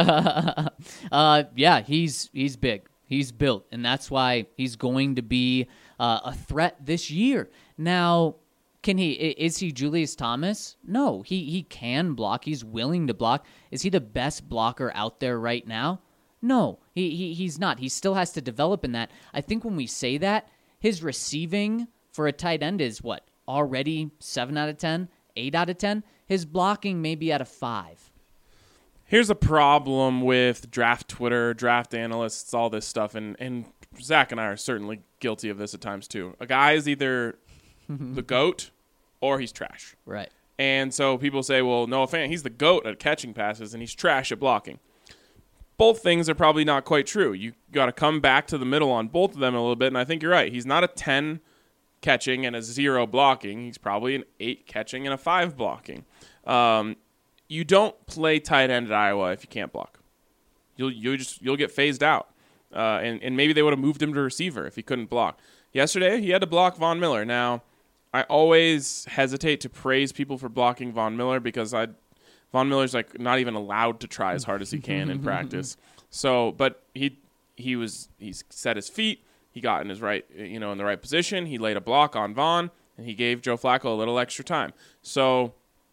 uh, yeah, he's he's big. He's built, and that's why he's going to be uh, a threat this year. Now, can he? Is he Julius Thomas? No, he he can block. He's willing to block. Is he the best blocker out there right now? No, he, he he's not. He still has to develop in that. I think when we say that, his receiving for a tight end is what? Already seven out of ten, eight out of ten. His blocking may be at a five. Here's a problem with draft Twitter, draft analysts, all this stuff, and, and Zach and I are certainly guilty of this at times too. A guy is either the GOAT or he's trash. Right. And so people say, well, Noah Fant, he's the GOAT at catching passes and he's trash at blocking. Both things are probably not quite true. You got to come back to the middle on both of them a little bit, and I think you're right. He's not a ten catching and a zero blocking. He's probably an eight catching and a five blocking. Um, you don't play tight end at Iowa if you can't block. You'll you just you'll get phased out, uh, and and maybe they would have moved him to receiver if he couldn't block. Yesterday he had to block Von Miller. Now, I always hesitate to praise people for blocking Von Miller because I. Von Miller's like not even allowed to try as hard as he can in practice. So, but he he was he set his feet. He got in his right, you know, in the right position. He laid a block on Von, and he gave Joe Flacco a little extra time. So,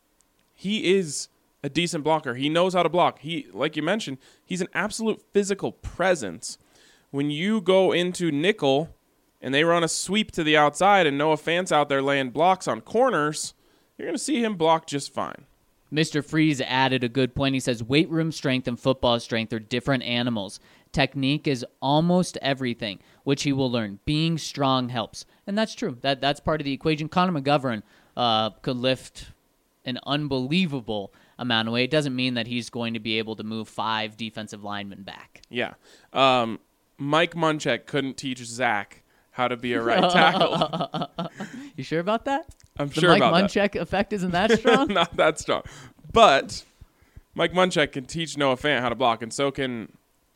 he is a decent blocker. He knows how to block. He, like you mentioned, he's an absolute physical presence. When you go into nickel and they run a sweep to the outside, and Noah Fant's out there laying blocks on corners, you're going to see him block just fine. Mister Freeze added a good point. He says, weight room strength and football strength are different animals. Technique is almost everything, which he will learn. Being strong helps. And that's true. That That's part of the equation. Connor McGovern uh, could lift an unbelievable amount of weight. It doesn't mean that he's going to be able to move five defensive linemen back. Yeah. Um, Mike Munchak couldn't teach Zach how to be a right tackle. You sure about that? I'm the sure Mike about Munchak that. The Mike Munchak effect isn't that strong? Not that strong. But Mike Munchak can teach Noah Fant how to block, and so can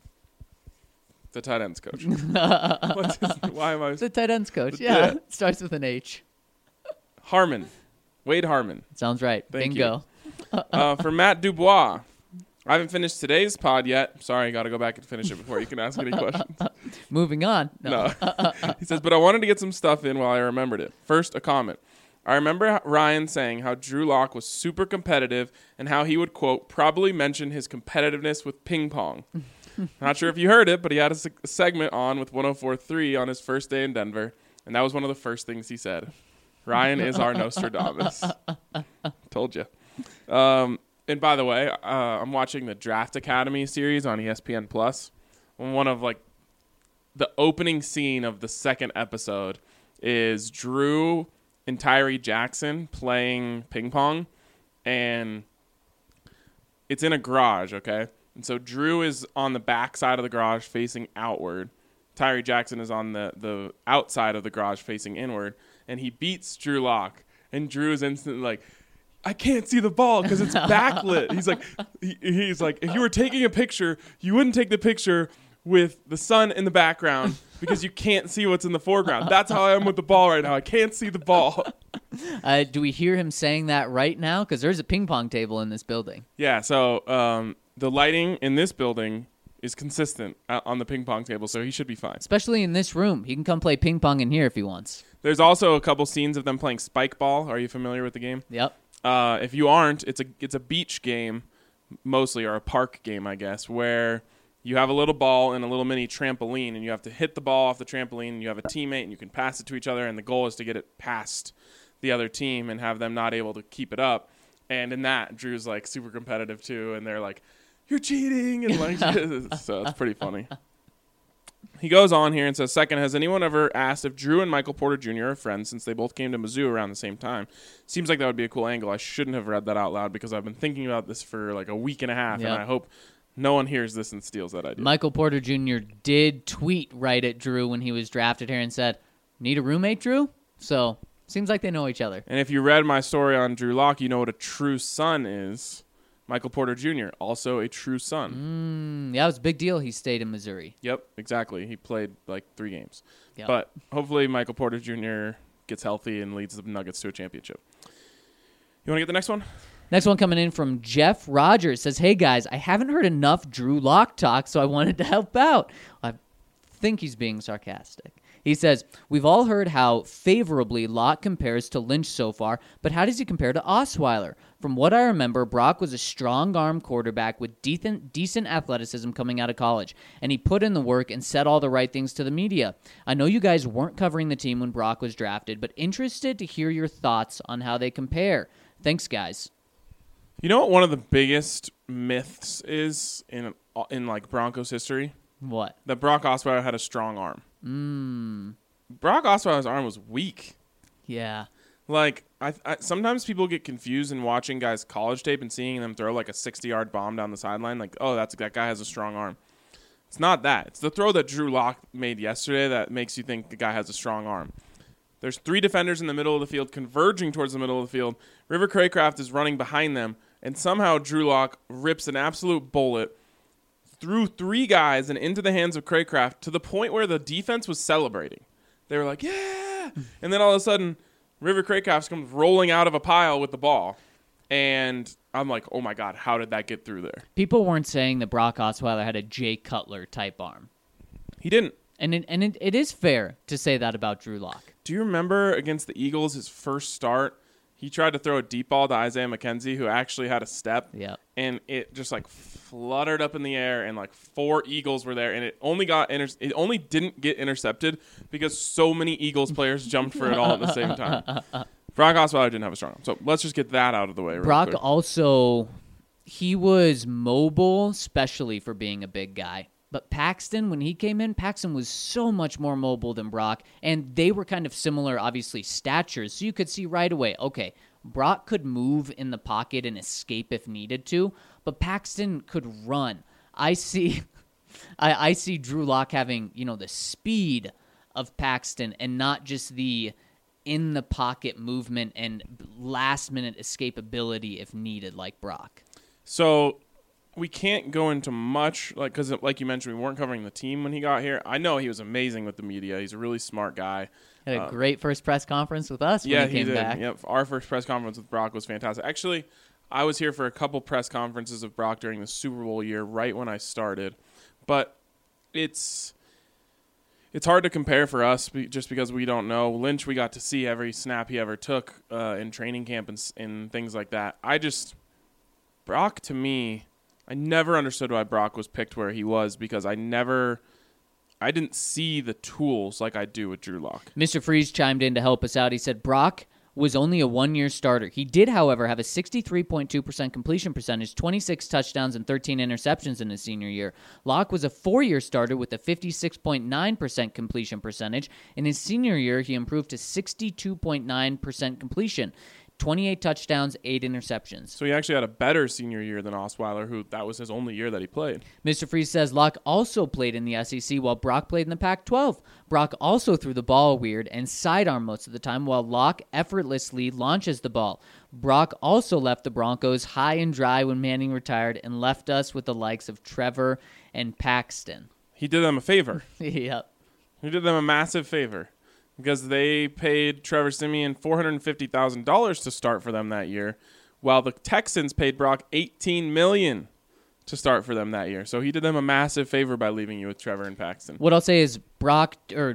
the tight ends coach. What's his, why am I? The tight ends coach. Yeah. Yeah. Starts with an H. Harmon. Wade Harmon. Sounds right. Thank Bingo. you. uh, for Matt Dubois. I haven't finished today's pod yet. Sorry, got to go back and finish it before you can ask any questions. Moving on. No. no. He says, but I wanted to get some stuff in while I remembered it. First, a comment. I remember Ryan saying how Drew Lock was super competitive and how he would, quote, probably mention his competitiveness with ping pong. Not sure if you heard it, but he had a, se- a segment on with one oh four point three on his first day in Denver, and that was one of the first things he said. Ryan is our Nostradamus. Told you. Um, and by the way, uh, I'm watching the Draft Academy series on E S P N Plus. One of, like, the opening scene of the second episode is Drew and Tyree Jackson playing ping pong, and it's in a garage, okay? And so Drew is on the back side of the garage facing outward. Tyree Jackson is on the, the outside of the garage facing inward, and he beats Drew Lock, and Drew is instantly like, I can't see the ball because it's backlit. He's like, he, he's like, if you were taking a picture, you wouldn't take the picture with the sun in the background because you can't see what's in the foreground. That's how I am with the ball right now. I can't see the ball. Uh, do we hear him saying that right now? Because there's a ping pong table in this building. Yeah, so um, the lighting in this building is consistent on the ping pong table, so he should be fine. Especially in this room. He can come play ping pong in here if he wants. There's also a couple scenes of them playing spike ball. Are you familiar with the game? Yep. Uh, if you aren't, it's a it's a beach game, mostly, or a park game, I guess, where you have a little ball and a little mini trampoline, and you have to hit the ball off the trampoline, and you have a teammate, and you can pass it to each other, and the goal is to get it past the other team and have them not able to keep it up. And in that, Drew's, like, super competitive, too, and they're like, you're cheating, and like, so it's pretty funny. He goes on here and says, second, has anyone ever asked if Drew and Michael Porter Junior are friends since they both came to Mizzou around the same time? Seems like that would be a cool angle. I shouldn't have read that out loud because I've been thinking about this for like a week and a half, Yep. and I hope no one hears this and steals that idea. Michael Porter Junior did tweet right at Drew when he was drafted here and said, need a roommate, Drew? So, seems like they know each other. And if you read my story on Drew Lock, you know what a true son is. Michael Porter Junior, also a true son. Mm, yeah, it was a big deal he stayed in Missouri. Yep, exactly. He played like three games. Yep. But hopefully Michael Porter Junior gets healthy and leads the Nuggets to a championship. You want to get the next one? Next one coming in from Jeff Rogers. Says, hey, guys, I haven't heard enough Drew Lock talk, so I wanted to help out. I think he's being sarcastic. He says, we've all heard how favorably Locke compares to Lynch so far, but how does he compare to Osweiler? From what I remember, Brock was a strong-arm quarterback with decent, decent athleticism coming out of college, and he put in the work and said all the right things to the media. I know you guys weren't covering the team when Brock was drafted, but interested to hear your thoughts on how they compare. Thanks, guys. You know what one of the biggest myths is in in like Broncos history? What? That Brock Osweiler had a strong arm. Mmm. Brock Osweiler's arm was weak. Yeah. Like, I, I sometimes people get confused in watching guys' college tape and seeing them throw like a sixty-yard bomb down the sideline. Like, oh, that's that guy has a strong arm. It's not that. It's the throw that Drew Lock made yesterday that makes you think the guy has a strong arm. There's three defenders in the middle of the field converging towards the middle of the field. River Craycraft is running behind them, and somehow Drew Lock rips an absolute bullet through three guys and into the hands of Craycraft to the point where the defense was celebrating. They were like, yeah! And then all of a sudden, River Craycraft comes rolling out of a pile with the ball. And I'm like, oh, my God, how did that get through there? People weren't saying that Brock Osweiler had a Jay Cutler type arm. He didn't. And it, and it, it is fair to say that about Drew Lock. Do you remember against the Eagles, his first start, he tried to throw a deep ball to Isaiah McKenzie, who actually had a step. Yeah. And it just like fluttered up in the air, and like four Eagles were there, and it only got inter- it only didn't get intercepted because so many Eagles players jumped for it all at the same time. Brock Osweiler didn't have a strong arm. So let's just get that out of the way. Real Brock quick. also, he was mobile, especially for being a big guy. But Paxton, when he came in, Paxton was so much more mobile than Brock, and they were kind of similar, obviously, statures. So you could see right away, okay, Brock could move in the pocket and escape if needed to, but Paxton could run. I see, I, I see Drew Lock having, you know, the speed of Paxton and not just the in the pocket movement and last minute escapability if needed, like Brock. So we can't go into much, like, because like you mentioned, we weren't covering the team when he got here. I know he was amazing with the media. He's a really smart guy. Had a uh, great first press conference with us when yeah, he came did. back. Yep, our first press conference with Brock was fantastic. Actually, I was here for a couple press conferences of Brock during the Super Bowl year, right when I started. But it's it's hard to compare for us be, just because we don't know. Lynch, we got to see every snap he ever took uh, in training camp and, and things like that. I just Brock, to me, I never understood why Brock was picked where he was because I never, I didn't see the tools like I do with Drew Lock. Mister Freeze chimed in to help us out. He said Brock was only a one-year starter. He did, however, have a sixty-three point two percent completion percentage, twenty-six touchdowns, and thirteen interceptions in his senior year. Locke was a four-year starter with a fifty-six point nine percent completion percentage. In his senior year, he improved to sixty-two point nine percent completion. twenty-eight touchdowns, eight interceptions. So he actually had a better senior year than Osweiler, who that was his only year that he played. Mister Freeze says Locke also played in the S E C while Brock played in the Pac twelve. Brock also threw the ball weird and sidearm most of the time while Locke effortlessly launches the ball. Brock also left the Broncos high and dry when Manning retired and left us with the likes of Trevor and Paxton. He did them a favor. Yep. He did them a massive favor. Because they paid Trevor Siemian four hundred fifty thousand dollars to start for them that year, while the Texans paid Brock eighteen million dollars to start for them that year. So he did them a massive favor by leaving you with Trevor and Paxton. What I'll say is Brock or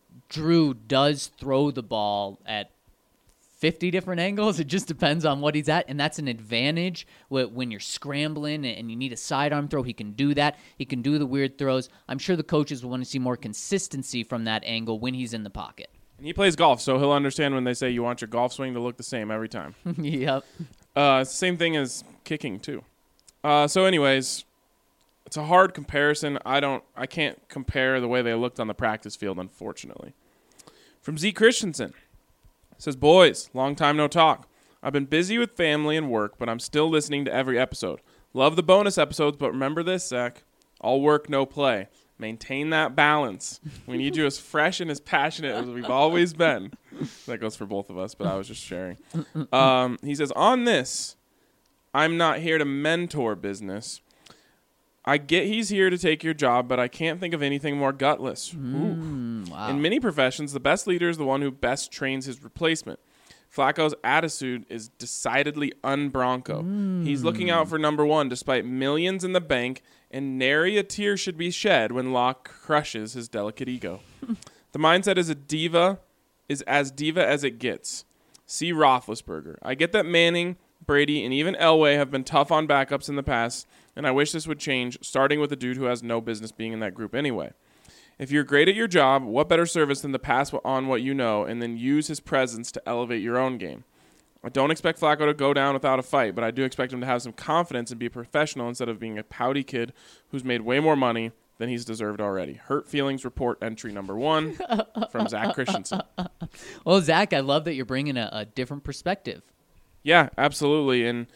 Drew does throw the ball at fifty different angles. It just depends on what he's at, and that's an advantage when you're scrambling and you need a sidearm throw. He can do that. He can do the weird throws. I'm sure the coaches will want to see more consistency from that angle when he's in the pocket. And he plays golf, so he'll understand when they say you want your golf swing to look the same every time. Yep. Uh, same thing as kicking, too. Uh, so anyways, it's a hard comparison. I don't, I can't compare the way they looked on the practice field, unfortunately. From Z Christensen, says, boys, long time no talk. I've been busy with family and work, but I'm still listening to every episode. Love the bonus episodes, but remember this, Zach. All work, no play. Maintain that balance. We need you as fresh and as passionate as we've always been. That goes for both of us, but I was just sharing. Um, he says, on this, I'm not here to mentor business. I get he's here to take your job, but I can't think of anything more gutless. Mm, wow. In many professions, the best leader is the one who best trains his replacement. Flacco's attitude is decidedly un-Bronco. Mm. He's looking out for number one despite millions in the bank, and nary a tear should be shed when Locke crushes his delicate ego. The mindset is a diva, is as diva as it gets. See Roethlisberger. I get that Manning, Brady, and even Elway have been tough on backups in the past, and I wish this would change, starting with a dude who has no business being in that group anyway. If you're great at your job, what better service than to pass on what you know and then use his presence to elevate your own game? I don't expect Flacco to go down without a fight, but I do expect him to have some confidence and be a professional instead of being a pouty kid who's made way more money than he's deserved already. Hurt Feelings Report entry number one from Zach Christensen. Well, Zach, I love that you're bringing a, a different perspective. Yeah, absolutely. And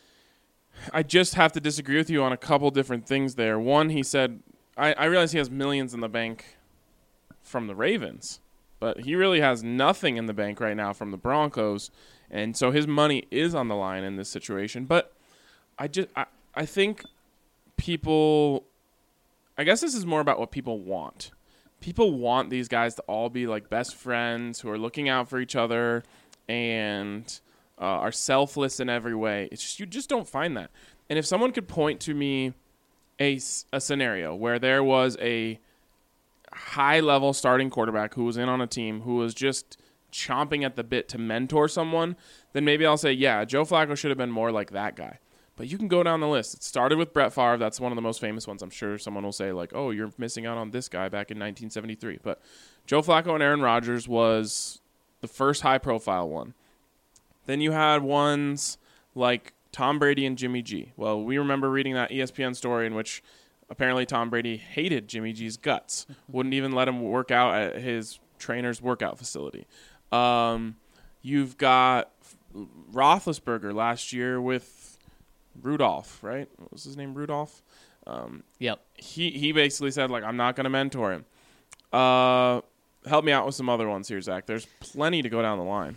I just have to disagree with you on a couple different things there. One, he said, I, I realize he has millions in the bank from the Ravens, but he really has nothing in the bank right now from the Broncos. And so his money is on the line in this situation. But I just I, I think people I guess this is more about what people want. People want these guys to all be like best friends who are looking out for each other and uh, are selfless in every way. It's just, you just don't find that. And if someone could point to me a, a scenario where there was a high-level starting quarterback who was in on a team who was just chomping at the bit to mentor someone, then maybe I'll say, yeah, Joe Flacco should have been more like that guy. But you can go down the list. It started with Brett Favre. That's one of the most famous ones. I'm sure someone will say, like, oh, you're missing out on this guy back in nineteen seventy-three. But Joe Flacco and Aaron Rodgers was the first high-profile one. Then you had ones like Tom Brady and Jimmy G. Well, we remember reading that E S P N story in which apparently Tom Brady hated Jimmy G's guts, wouldn't even let him work out at his trainer's workout facility. Um, you've got Roethlisberger last year with Rudolph, right? What was his name? Rudolph? Um, yep. He he basically said, like, I'm not going to mentor him. Uh, help me out with some other ones here, Zach. There's plenty to go down the line.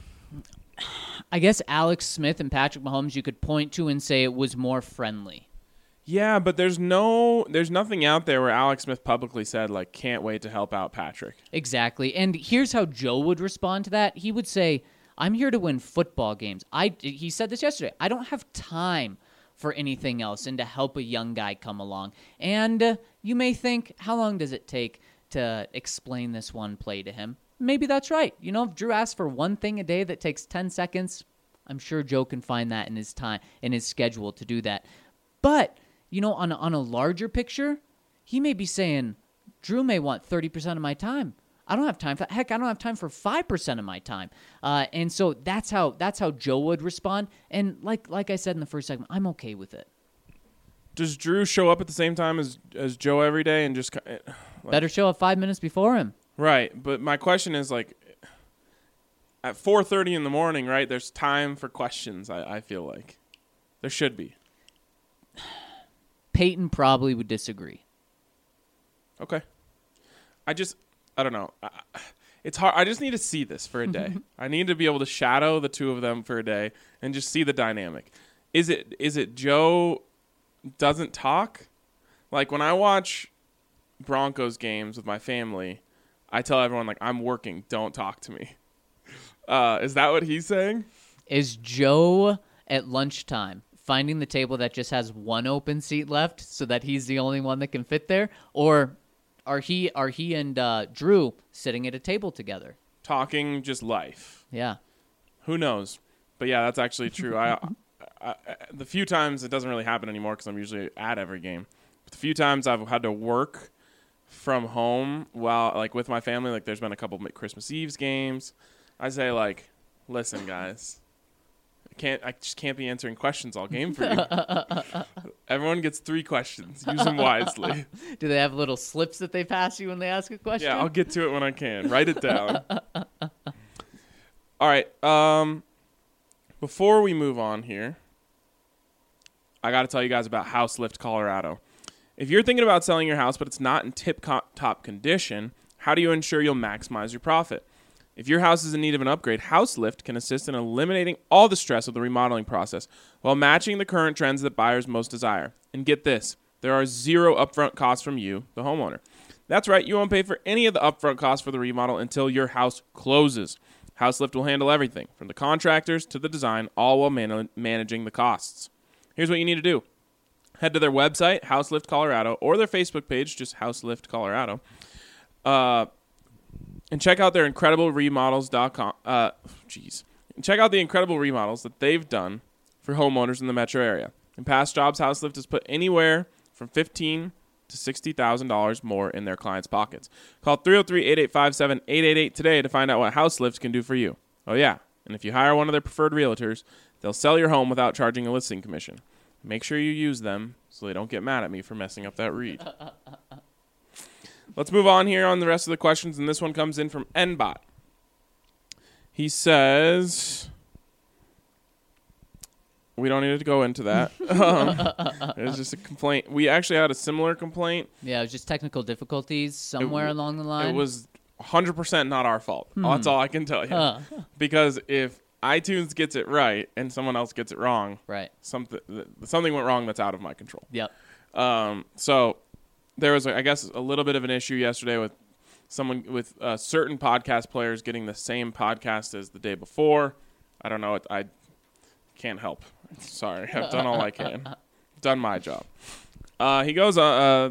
I guess Alex Smith and Patrick Mahomes you could point to and say it was more friendly. Yeah, but there's no, there's nothing out there where Alex Smith publicly said, like, can't wait to help out Patrick. Exactly. And here's how Joe would respond to that. He would say, I'm here to win football games. I, he said this yesterday. I don't have time for anything else and to help a young guy come along. And uh, you may think, how long does it take to explain this one play to him? Maybe that's right. You know, if Drew asks for one thing a day that takes ten seconds, I'm sure Joe can find that in his time, in his schedule to do that. But, you know, on a, on a larger picture, he may be saying, Drew may want thirty percent of my time. I don't have time for that. Heck, I don't have time for five percent of my time. Uh, and so that's how that's how Joe would respond. And like like I said in the first segment, I'm okay with it. Does Drew show up at the same time as as Joe every day and just like, better show up five minutes before him? Right, but my question is, like, at four thirty in the morning, right, there's time for questions, I, I feel like. There should be. Peyton probably would disagree. Okay. I just, I don't know. I, it's hard. I just need to see this for a day. I need to be able to shadow the two of them for a day and just see the dynamic. Is it is it Joe doesn't talk? Like, when I watch Broncos games with my family, I tell everyone, like, I'm working. Don't talk to me. Uh, is that what he's saying? Is Joe at lunchtime finding the table that just has one open seat left so that he's the only one that can fit there? Or are he are he and uh, Drew sitting at a table together? Talking just life. Yeah. Who knows? But, yeah, that's actually true. I, I, I The few times, it doesn't really happen anymore because I'm usually at every game. But the few times I've had to work from home while, like, with my family, like, there's been a couple of Christmas Eve's games. I say, like, listen, guys, I can't. I just can't be answering questions all game for you. Everyone gets three questions. Use them wisely. Do they have little slips that they pass you when they ask a question? Yeah, I'll get to it when I can. Write it down. All right. Um, before we move on here, I got to tell you guys about House Lift Colorado. If you're thinking about selling your house, but it's not in tip-top condition, how do you ensure you'll maximize your profit? If your house is in need of an upgrade, House Lift can assist in eliminating all the stress of the remodeling process while matching the current trends that buyers most desire. And get this, there are zero upfront costs from you, the homeowner. That's right, you won't pay for any of the upfront costs for the remodel until your house closes. House Lift will handle everything, from the contractors to the design, all while man- managing the costs. Here's what you need to do. Head to their website, House Lift Colorado, or their Facebook page, just House Lift Colorado. Uh... And check out their incredible remodels dot com. Uh, jeez. Check out the incredible remodels that they've done for homeowners in the metro area. In past jobs, House Lift has put anywhere from fifteen thousand dollars to sixty thousand dollars more in their clients' pockets. Call three oh three, eight eight five, seven eight eight eight today to find out what House Lift can do for you. Oh, yeah. And if you hire one of their preferred realtors, they'll sell your home without charging a listing commission. Make sure you use them so they don't get mad at me for messing up that read. Let's move on here on the rest of the questions, and this one comes in from Nbot. He says, we don't need to go into that. um, it was just a complaint. We actually had a similar complaint. Yeah, it was just technical difficulties somewhere It- along the line. It was one hundred percent not our fault. That's all I can tell you. Huh. Because if iTunes gets it right and someone else gets it wrong, Right. something something went wrong that's out of my control. Yep. Um, so there was, I guess, a little bit of an issue yesterday with someone with uh, certain podcast players getting the same podcast as the day before. I don't know. I can't help. Sorry. I've done all I can. Done my job. Uh, he goes, uh, uh,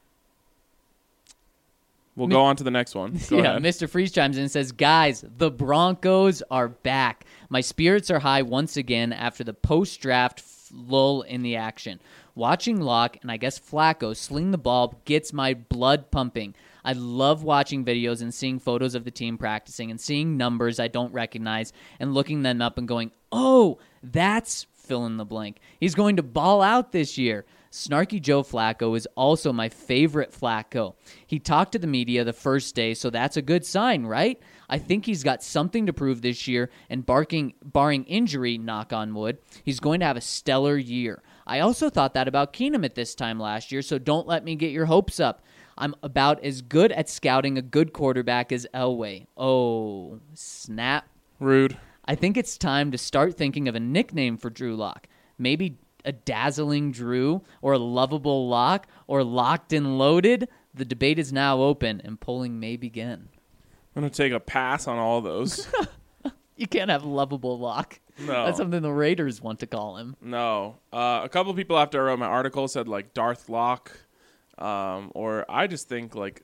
we'll go on to the next one. Go yeah, ahead. Mister Freeze chimes in and says, guys, the Broncos are back. My spirits are high once again after the post-draft lull in the action. Watching Locke and I guess Flacco sling the ball gets my blood pumping. I love watching videos and seeing photos of the team practicing and seeing numbers I don't recognize and looking them up and going, oh, that's fill in the blank. He's going to ball out this year. Snarky Joe Flacco is also my favorite Flacco. He talked to the media the first day, so that's a good sign, right? I think he's got something to prove this year, and barking, barring injury, knock on wood, he's going to have a stellar year. I also thought that about Keenum at this time last year, so don't let me get your hopes up. I'm about as good at scouting a good quarterback as Elway. Oh, snap. Rude. I think it's time to start thinking of a nickname for Drew Lock. Maybe a dazzling Drew, or a lovable Lock, or locked and loaded. The debate is now open, and polling may begin. I'm going to take a pass on all those. You can't have lovable Lock. No. That's something the Raiders want to call him. No. Uh, a couple people after I wrote my article said, like, Darth Locke. Um, or I just think, like,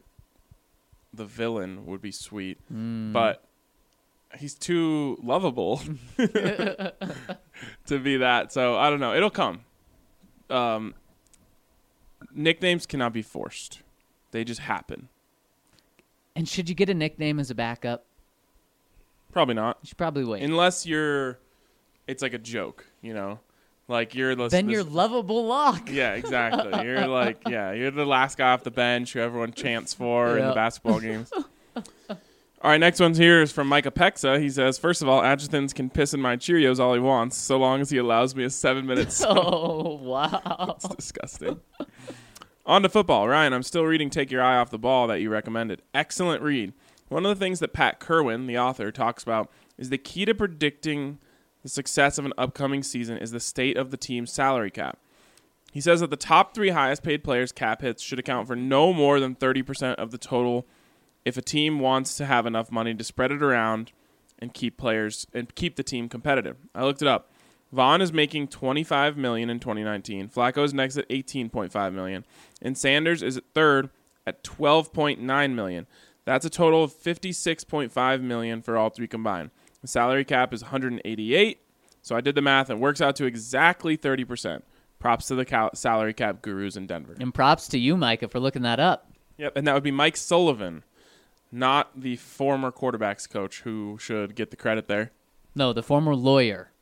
the villain would be sweet. Mm. But he's too lovable to be that. So, I don't know. It'll come. Um, nicknames cannot be forced. They just happen. And should you get a nickname as a backup? Probably not. You should probably wait. Unless you're, it's like a joke, you know? Like, you're the... then this, you're lovable Lock. Yeah, exactly. You're like, yeah, you're the last guy off the bench who everyone chants for in the Yeah. basketball games. All right, next one's here is from Micah Pexa. He says, first of all, Adjuthans can piss in my Cheerios all he wants, so long as he allows me a seven-minute sip. Oh, wow. It's disgusting. On to football. Ryan, I'm still reading Take Your Eye Off the Ball that you recommended. Excellent read. One of the things that Pat Kerwin, the author, talks about is the key to predicting the success of an upcoming season is the state of the team's salary cap. He says that the top three highest paid players' cap hits should account for no more than thirty percent of the total if a team wants to have enough money to spread it around and keep players and keep the team competitive. I looked it up. Vaughn is making twenty-five million dollars in twenty nineteen. Flacco is next at eighteen point five million dollars. And Sanders is at third at twelve point nine million dollars. That's a total of fifty-six point five million dollars for all three combined. The salary cap is one hundred eighty-eight. So I did the math and it works out to exactly thirty percent. Props to the cal- salary cap gurus in Denver. And props to you, Micah, for looking that up. Yep, and that would be Mike Sullivan, not the former quarterbacks coach who should get the credit there. No, the former lawyer.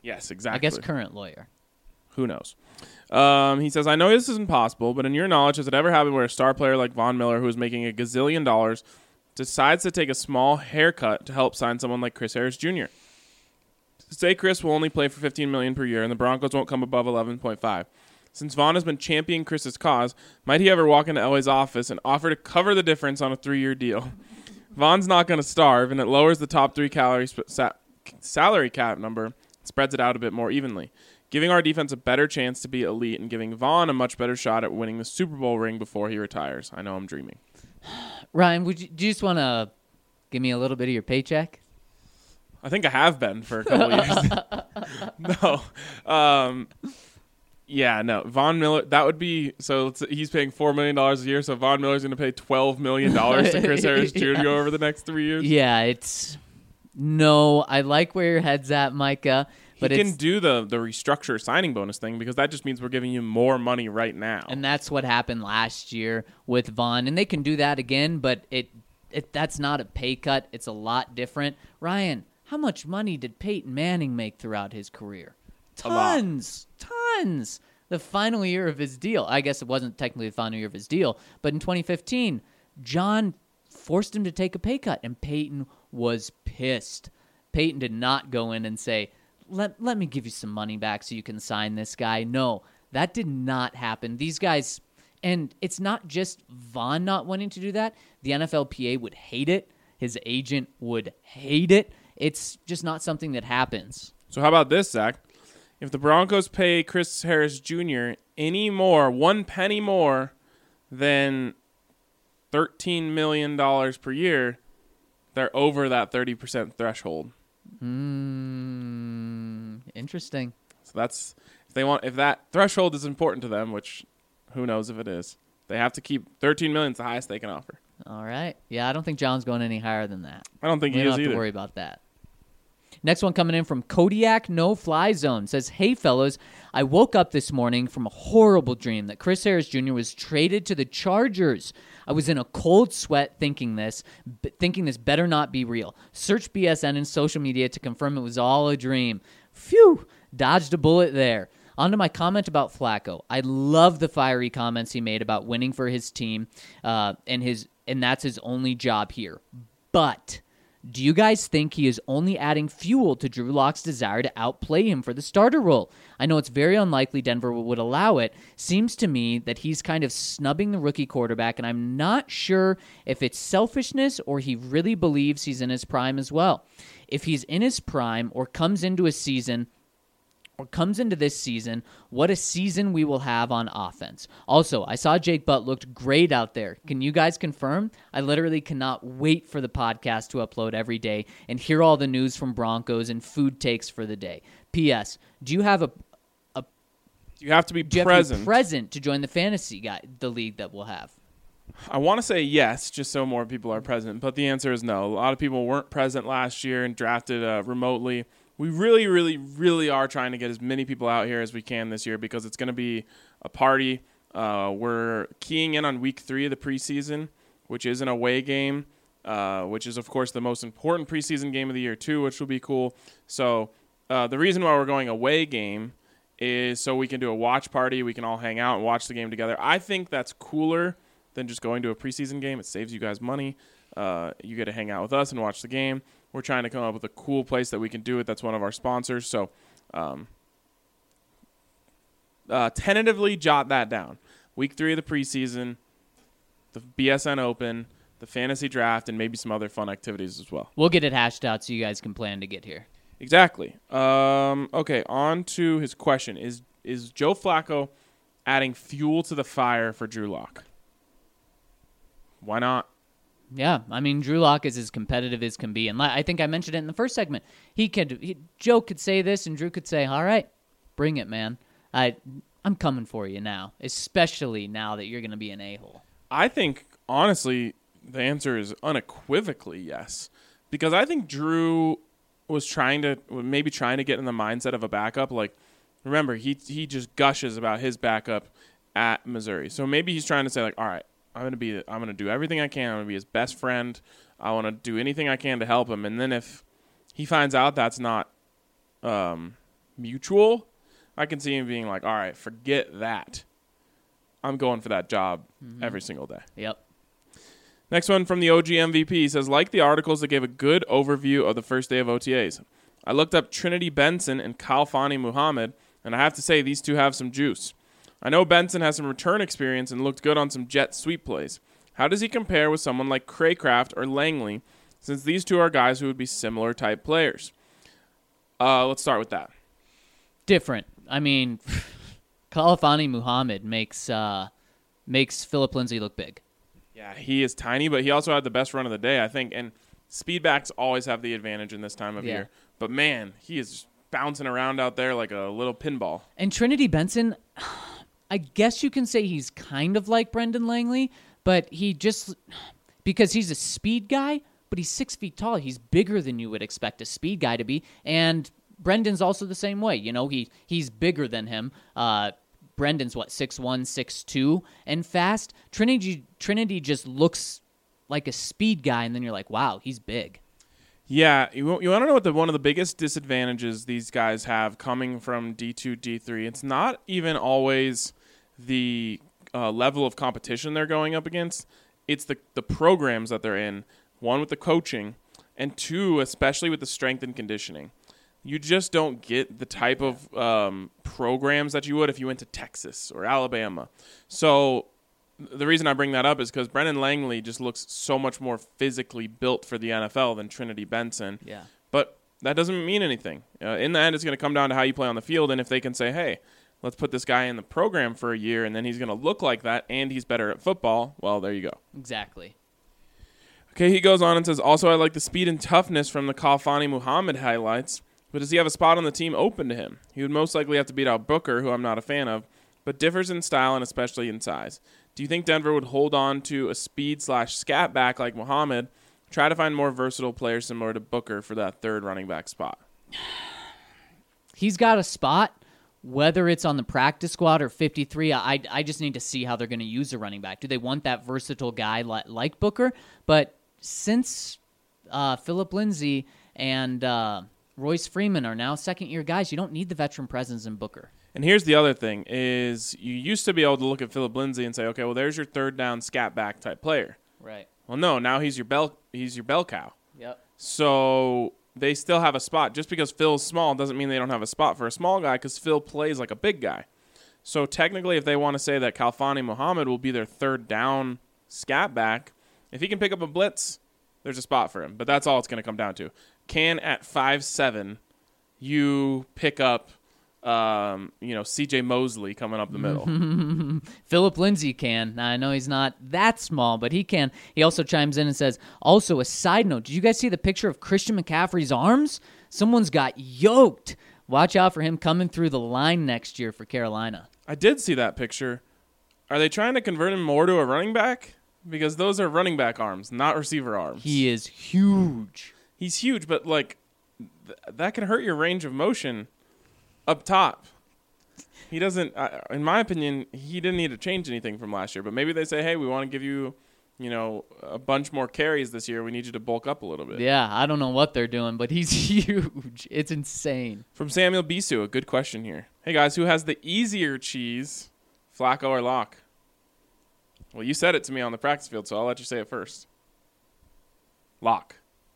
Yes, exactly. I guess current lawyer. Who knows? Um, he says, I know this isn't possible, but in your knowledge, has it ever happened where a star player like Von Miller, who is making a gazillion dollars, decides to take a small haircut to help sign someone like Chris Harris Junior? Say Chris will only play for fifteen million dollars per year, and the Broncos won't come above eleven point five. Since Von has been championing Chris's cause, might he ever walk into Elway's office and offer to cover the difference on a three-year deal? Von's not going to starve, and it lowers the top three calorie sp- sa- salary cap number, spreads it out a bit more evenly, giving our defense a better chance to be elite and giving Von a much better shot at winning the Super Bowl ring before he retires. I know I'm dreaming. Ryan, would you, do you just want to give me a little bit of your paycheck? I think I have been for a couple of years. no. Um, yeah, no. Von Miller, that would be, so let's, he's paying four million dollars a year, so Von Miller's going to pay twelve million dollars to Chris Harris Junior Yeah. over the next three years? Yeah, it's, no, I like where your head's at, Micah. But he it's, can do the, the restructure signing bonus thing because that just means we're giving you more money right now. And that's what happened last year with Von. And they can do that again, but it, it that's not a pay cut. It's a lot different. Ryan, how much money did Peyton Manning make throughout his career? Tons. Tons. The final year of his deal. I guess it wasn't technically the final year of his deal, but in twenty fifteen, John forced him to take a pay cut, and Peyton was pissed. Peyton did not go in and say, Let let me give you some money back so you can sign this guy. No, that did not happen. These guys, and it's not just Von not wanting to do that. The N F L P A would hate it. His agent would hate it. It's just not something that happens. So how about this, Zach? If the Broncos pay Chris Harris Junior any more, one penny more than thirteen million dollars per year, they're over that thirty percent threshold. Hmm. Interesting. So that's if they want if that threshold is important to them, which who knows if it is. They have to keep thirteen million is the highest they can offer. All right. Yeah, I don't think John's going any higher than that. I don't think we he don't is have either. to worry about that. Next one coming in from Kodiak No Fly Zone says, "Hey fellas, I woke up this morning from a horrible dream that Chris Harris Junior was traded to the Chargers. I was in a cold sweat thinking this, b- thinking this better not be real. Search B S N and social media to confirm it was all a dream. Phew, dodged a bullet there." On to my comment about Flacco. I love the fiery comments he made about winning for his team, uh, and his and that's his only job here. But do you guys think he is only adding fuel to Drew Lock's desire to outplay him for the starter role? I know it's very unlikely Denver would allow it. Seems to me that he's kind of snubbing the rookie quarterback, and I'm not sure if it's selfishness or he really believes he's in his prime as well. If he's in his prime or comes into a season or comes into this season, what a season we will have on offense. Also, I saw Jake Butt looked great out there. Can you guys confirm? I literally cannot wait for the podcast to upload every day and hear all the news from Broncos and food takes for the day. P S. Do you have a, a You have to be do you present. have to be present to join the fantasy guy, the league that we'll have? I want to say yes, just so more people are present, but the answer is no. A lot of people weren't present last year and drafted uh, remotely. We really, really, really are trying to get as many people out here as we can this year because it's going to be a party. Uh, we're keying in on week three of the preseason, which is an away game, uh, which is, of course, the most important preseason game of the year, too, which will be cool. So uh, the reason why we're going away game is so we can do a watch party. We can all hang out and watch the game together. I think that's cooler than just going to a preseason game. It saves you guys money. Uh, you get to hang out with us and watch the game. We're trying to come up with a cool place that we can do it. That's one of our sponsors. So um, uh, tentatively jot that down. Week three of the preseason, the B S N Open, the fantasy draft, and maybe some other fun activities as well. We'll get it hashed out so you guys can plan to get here. Exactly. Um, okay, on to his question. Is is Joe Flacco adding fuel to the fire for Drew Lock? Why not? Yeah, I mean, Drew Lock is as competitive as can be. And I think I mentioned it in the first segment. He could, he, Joe could say this, and Drew could say, all right, bring it, man. I, I'm coming for you now, especially now that you're going to be an a-hole. I think, honestly, the answer is unequivocally yes. Because I think Drew was trying to, maybe trying to get in the mindset of a backup. Like, remember, he he just gushes about his backup at Missouri. So maybe he's trying to say, like, all right, I'm gonna be. I'm gonna do everything I can. I'm gonna be his best friend. I want to do anything I can to help him. And then if he finds out that's not um, mutual, I can see him being like, all right, forget that. I'm going for that job mm-hmm. every single day. Yep. Next one from the O G M V P says, like the articles that gave a good overview of the first day of O T As. I looked up Trinity Benson and Khalfani Muhammad, and I have to say these two have some juice. I know Benson has some return experience and looked good on some jet sweep plays. How does he compare with someone like Craycraft or Langley, since these two are guys who would be similar type players? Uh, let's start with that. Different. I mean, Khalfani Muhammad makes uh, makes Philip Lindsay look big. Yeah, he is tiny, but he also had the best run of the day, I think. And speedbacks always have the advantage in this time of yeah. year. But, man, he is just bouncing around out there like a little pinball. And Trinity Benson, I guess you can say he's kind of like Brendan Langley, but he just – because he's a speed guy, but he's six feet tall. He's bigger than you would expect a speed guy to be. And Brendan's also the same way. You know, he he's bigger than him. Uh Brendan's, what, six one, six two, and fast. Trinity Trinity just looks like a speed guy, and then you're like, wow, he's big. Yeah, you, you want to know what the one of the biggest disadvantages these guys have coming from D two, D three? It's not even always the uh, level of competition they're going up against. It's the, the programs that they're in, one with the coaching, and two, especially with the strength and conditioning. You just don't get the type of um, programs that you would if you went to Texas or Alabama. So the reason I bring that up is because Brendan Langley just looks so much more physically built for the N F L than Trinity Benson. Yeah. But that doesn't mean anything. Uh, in the end, it's going to come down to how you play on the field, and if they can say, hey, let's put this guy in the program for a year, and then he's going to look like that, and he's better at football, well, there you go. Exactly. Okay, he goes on and says, also, I like the speed and toughness from the Khalfani Muhammad highlights. But does he have a spot on the team open to him? He would most likely have to beat out Booker, who I'm not a fan of, but differs in style and especially in size. Do you think Denver would hold on to a speed slash scat back like Muhammad, try to find more versatile players similar to Booker for that third running back spot? He's got a spot, whether it's on the practice squad or fifty-three. I I just need to see how they're going to use a running back. Do they want that versatile guy like, like Booker? But since uh, Philip Lindsay and uh, Royce Freeman are now second-year guys, you don't need the veteran presence in Booker. And here's the other thing, is you used to be able to look at Philip Lindsay and say, okay, well, there's your third down scat back type player. Right. Well, no, now he's your bell he's your bell cow. Yep. So they still have a spot. Just because Phil's small doesn't mean they don't have a spot for a small guy, because Phil plays like a big guy. So technically, if they want to say that Khalfani Muhammad will be their third down scat back, if he can pick up a blitz, there's a spot for him. But that's all it's going to come down to. Can at five seven you pick up um, you know, C J Mosley coming up the middle? Philip Lindsay can. Now, I know he's not that small, but he can. He also chimes in and says, also, a side note, did you guys see the picture of Christian McCaffrey's arms? Someone's got yoked. Watch out for him coming through the line next year for Carolina. I did see that picture. Are they trying to convert him more to a running back? Because those are running back arms, not receiver arms. He is huge. He's huge, but, like, th- that can hurt your range of motion up top. He doesn't, uh, in my opinion, he didn't need to change anything from last year. But maybe they say, hey, we want to give you, you know, a bunch more carries this year. We need you to bulk up a little bit. Yeah, I don't know what they're doing, but he's huge. It's insane. From Samuel Bisu, a good question here. Hey, guys, who has the easier cheese, Flacco or Locke? Well, you said it to me on the practice field, so I'll let you say it first. Locke.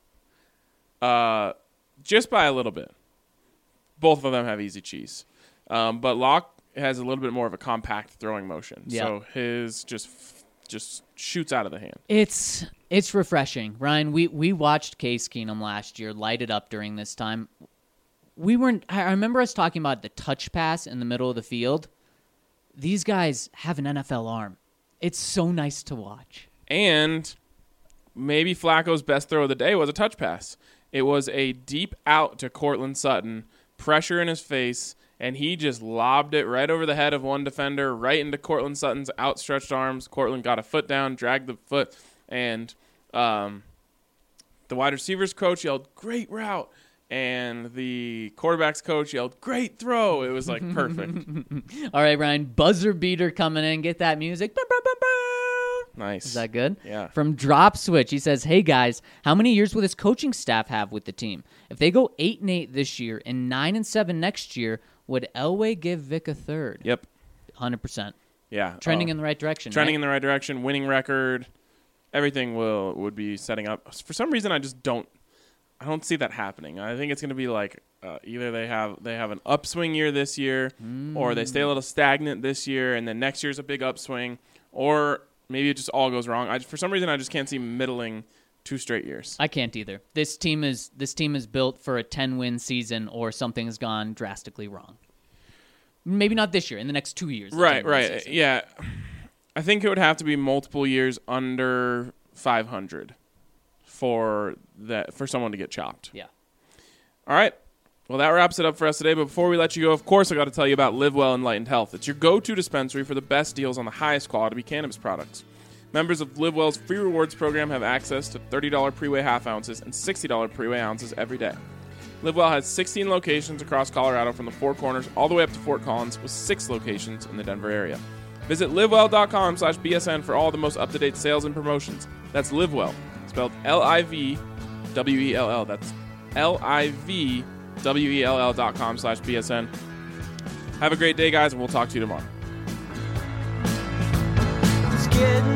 Uh, just by a little bit. Both of them have easy cheese. Um, but Locke has a little bit more of a compact throwing motion. Yep. So his just just shoots out of the hand. It's it's refreshing. Ryan, we, we watched Case Keenum last year light it up during this time. We weren't. I remember us talking about the touch pass in the middle of the field. These guys have an N F L arm. It's so nice to watch. And maybe Flacco's best throw of the day was a touch pass. It was a deep out to Cortland Sutton, pressure in his face, and he just lobbed it right over the head of one defender, right into Cortland Sutton's outstretched arms. Cortland got a foot down, dragged the foot, and um, the wide receivers coach yelled, great route. And the quarterback's coach yelled, great throw. It was, like, perfect. All right, Ryan, buzzer beater coming in. Get that music. Bow, bow, bow, bow. Nice. Is that good? Yeah. From Drop Switch, he says, "Hey guys, how many years will his coaching staff have with the team? If they go eight and eight this year and nine and seven next year, would Elway give Vic a third?" Yep. Hundred percent. Yeah. Trending uh, in the right direction. Trending right? in the right direction. Winning record. Everything will would be setting up. For some reason, I just don't. I don't see that happening. I think it's going to be like uh, either they have they have an upswing year this year, mm. or they stay a little stagnant this year, and then next year's a big upswing, or maybe it just all goes wrong. I, for some reason, I just can't see middling two straight years. I can't either. This team is this team is built for a ten-win season, or something has gone drastically wrong. Maybe not this year. In the next two years. Right, right, season. Yeah. I think it would have to be multiple years under five hundred for that for someone to get chopped. Yeah. All right. Well, that wraps it up for us today. But before we let you go, of course, I got to tell you about Live Well Enlightened Health. It's your go-to dispensary for the best deals on the highest quality cannabis products. Members of Live Well's free rewards program have access to thirty dollars pre-weigh half ounces and sixty dollars pre-weigh ounces every day. Live Well has sixteen locations across Colorado from the Four Corners all the way up to Fort Collins, with six locations in the Denver area. Visit livewell.com slash BSN for all the most up-to-date sales and promotions. That's LiveWell, spelled L I V W E L L. That's L I V W E L L dot com slash BSN. Have a great day, guys, and we'll talk to you tomorrow. It's getting